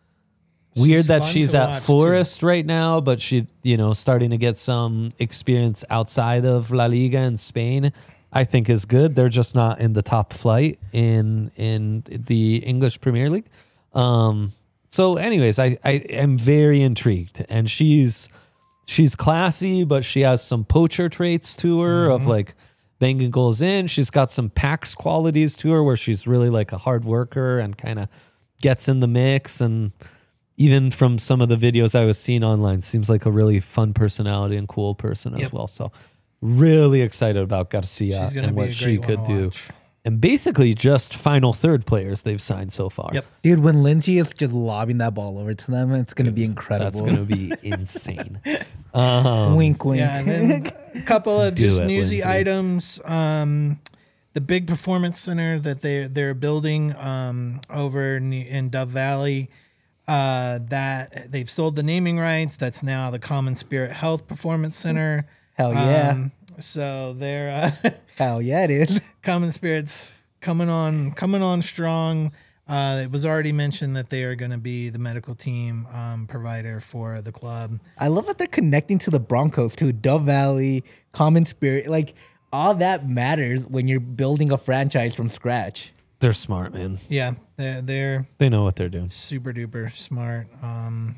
weird She's that fun she's to at watch, too. Forest right now, but she, you know, starting to get some experience outside of La Liga in Spain. I think is good. They're just not in the top flight in in the English Premier League. Um, So, anyways, I, I am very intrigued, and she's she's classy, but she has some poacher traits to her of like banging goals in. She's got some Pax qualities to her where she's really like a hard worker and kind of gets in the mix. And even from some of the videos I was seeing online, seems like a really fun personality and cool person as Yep. well. So, really excited about Garcia She's gonna and be what a she great could one to do. watch. And basically, just final third players they've signed so far. Yep. Dude, when Lindsay is just lobbing that ball over to them, it's going to be incredible. That's going to be insane. Um, wink, wink. Yeah, and then a couple of Do just it, newsy Lindsay. items. Um, the big performance center that they they're building um, over in, in Dove Valley. Uh, that they've sold the naming rights. That's now the Common Spirit Health Performance Center. Hell yeah. Um, so they're uh, Hell yeah, it is. Common Spirits coming on, coming on strong. Uh, it was already mentioned that they are going to be the medical team um, provider for the club. I love that they're connecting to the Broncos too. Dove Valley, Common Spirit, like all that matters when you're building a franchise from scratch. They're smart, man. Yeah, they're they're They know what they're doing. super duper smart. Um,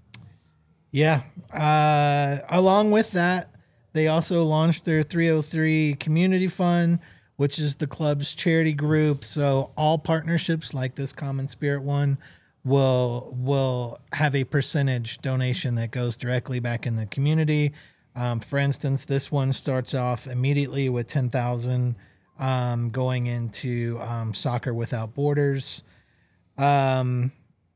yeah. Uh, along with that, they also launched their three oh three Community Fund, which is the club's charity group. So all partnerships like this Common Spirit one will will have a percentage donation that goes directly back in the community. Um, for instance, this one starts off immediately with ten thousand um, going into um, Soccer Without Borders. Um,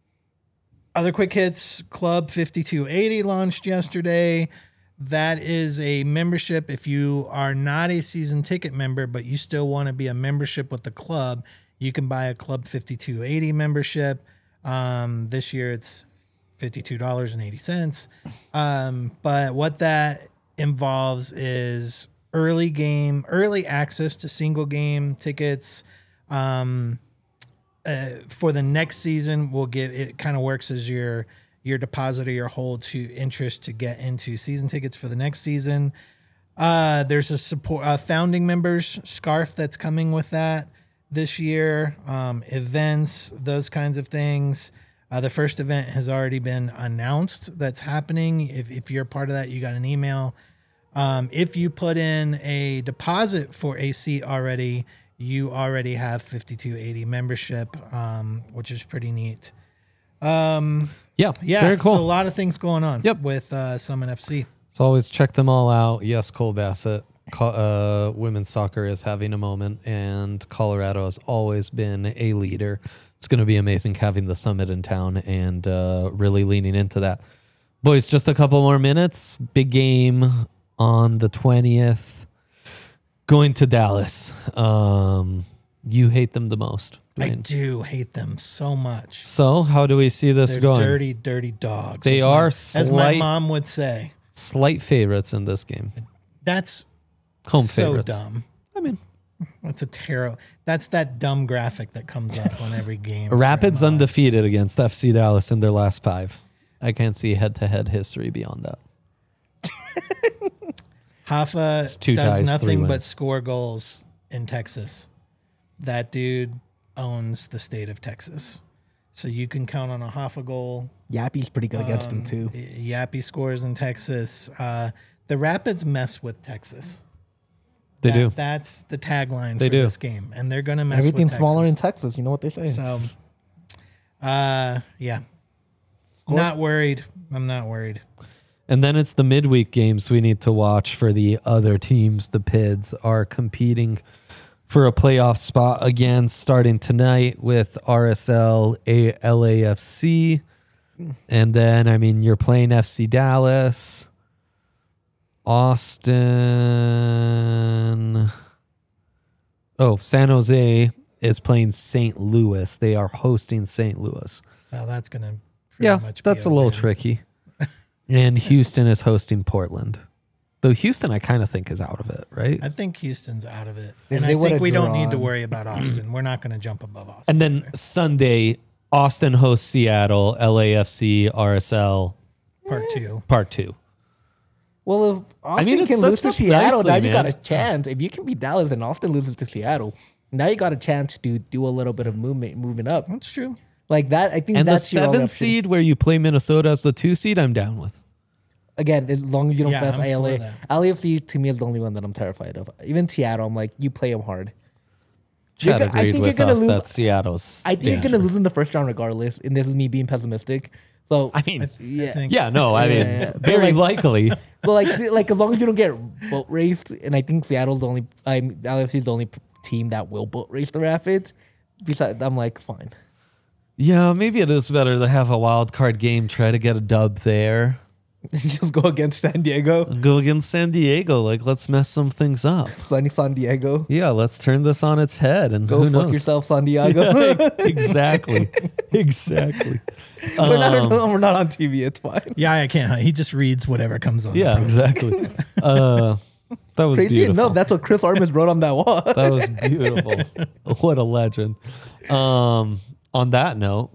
other quick hits, Club fifty-two eighty launched yesterday. That is a membership. If you are not a season ticket member, but you still want to be a membership with the club, you can buy a Club fifty-two eighty membership. Um, this year it's fifty-two dollars and eighty cents. Um, but what that involves is early game, early access to single game tickets. Um, uh, for the next season, we'll give it kind of works as your your deposit or your hold to interest to get into season tickets for the next season. Uh, there's a support uh, founding members scarf that's coming with that this year. Um, events, those kinds of things. Uh, the first event has already been announced that's happening. If, if you're part of that, you got an email. Um, if you put in a deposit for a seat already, you already have fifty-two eighty membership, um, which is pretty neat. Um, Yeah, yeah, very cool. so a lot of things going on Yep. with uh, Summon F C. So always check them all out. Yes, Cole Bassett. Co- uh, women's soccer is having a moment, and Colorado has always been a leader. It's going to be amazing having the summit in town and uh, really leaning into that. Boys, just a couple more minutes. Big game on the twentieth. Going to Dallas. Um, you hate them the most. I Dwayne. do hate them so much. So how do we see this They're going? dirty, dirty dogs. They as are my, as my slight- mom would say. Slight favorites in this game. That's Home so favorites. dumb. I mean, That's a tarot. That's that dumb graphic that comes up on every game. for Rapids M L S. undefeated against F C Dallas in their last five. I can't see head-to-head history beyond that. Hoffa two does ties, three nothing but wins. score goals in Texas. That dude owns the state of Texas. So you can count on a Hoffa goal. Yappy's pretty good against them Um, too. Yappy scores in Texas. Uh, the Rapids mess with Texas. They That- do. That's the tagline They for do. this game. And they're going to mess Everything's with smaller in Texas. Texas. You know what they say. So, uh, yeah. Not worried. I'm not worried. And then it's the midweek games we need to watch for the other teams. The Pids are competing for a playoff spot again starting tonight with R S L, A L A F C. And then, I mean, you're playing F C Dallas, Austin. Oh, San Jose is playing Saint Louis. They are hosting Saint Louis. So that's going to Yeah, much that's be a little win. tricky. And Houston is hosting Portland. Though Houston, I kind of think, is out of it, right? I think Houston's out of it. If And they I think would've we don't need to drawn- worry about Austin. We're not going to jump above Austin. And then Sunday, Austin hosts Seattle, L A F C, R S L, Part two. part two. Well, if Austin mean, it can lose sets to up Seattle, nicely, now you got man. a chance. If you can beat Dallas and Austin loses to Seattle, now you got a chance to do a little bit of movement, moving up That's true. like that. I think And the that's your only seventh option. seed where you play Minnesota as the two seed, I'm down with. Again, as long as you don't Yeah, pass I'm A L for A. that. L A F C to me is the only one that I'm terrified of. Even Seattle, I'm like, you play them hard. Chad You're go- I agreed think with you're gonna us lose- that Seattle's. I think you're danger. going to lose in the first round regardless, and this is me being pessimistic. So, I mean, I, th- Yeah. I think. yeah, no, I mean, Yeah. very Like- likely. so like, like as long as you don't get boat raced, and I think Seattle's the only, I'm L A F C is the only p- team that will boat race the Rapids. Besides, I'm like, fine. Yeah, maybe it is better to have a wild card game, try to get a dub there. Just go against San Diego, Go against San Diego. Like, let's mess some things up. sunny San Diego. Yeah, let's turn this on its head and Go who fuck knows? yourself, San Diego. exactly. Exactly. we're, not, Um, we're not on T V. It's fine. Yeah, I can't. He just reads whatever comes on. the yeah, program. exactly. uh, That was Crazy beautiful. enough, that's what Chris Armas wrote on that wall. That was beautiful. What a legend. Um, on that note,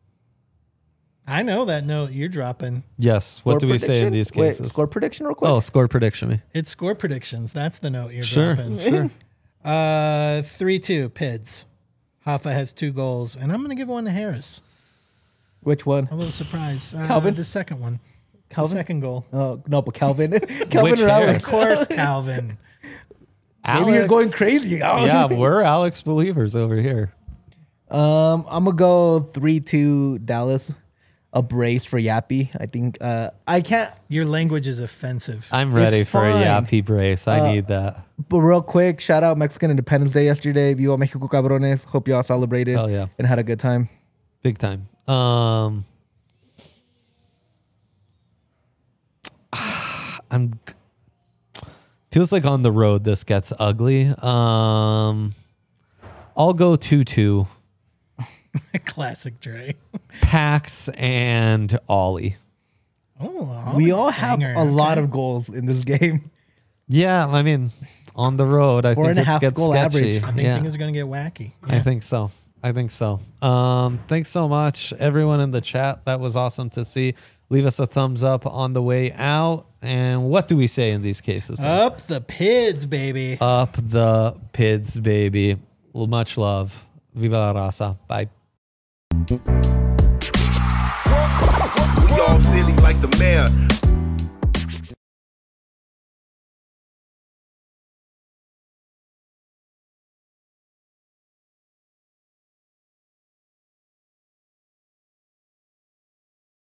I know that note you're dropping. yes. What Score do we say in prediction? these Wait, cases? score prediction real quick. Oh, score prediction me. It's score predictions. That's the note you're Sure, dropping. sure. Uh, three two Pids. Hoffa has two goals, and I'm going to give one to Harris. Which one? A little surprise. Uh, Calvin? the second one. Calvin? The second goal. Oh no, but Calvin, Calvin Which or Harris? Alex? Of course, Calvin. Maybe you're Alex- going crazy. Oh. Yeah, we're Alex believers over here. Um, I'm gonna go three two Dallas. A brace for Yappy. I think. Uh, I can't. Your language is offensive. I'm ready It's for fine. a yappy brace. I Uh, need that. But real quick, shout out Mexican Independence Day yesterday. Viva Mexico, cabrones. Hope y'all celebrated. Hell yeah. And had a good time. Big time. Um, I'm. Feels like on the road this gets ugly. Um, I'll go two two. Classic Dre. Pax and Ollie. Oh, We all have banger. a lot Okay. of goals in this game. Yeah, I mean, on the road, I Four think and a it half gets goal sketchy. average. I think yeah, things are going to get wacky. I Yeah. think so. I think so. Um, thanks so much, everyone in the chat. That was awesome to see. Leave us a thumbs up on the way out. And what do we say in these cases? Up the Pids, baby. Up the Pids, baby. Well, much love. Viva la raza. Bye. We all silly like the mayor.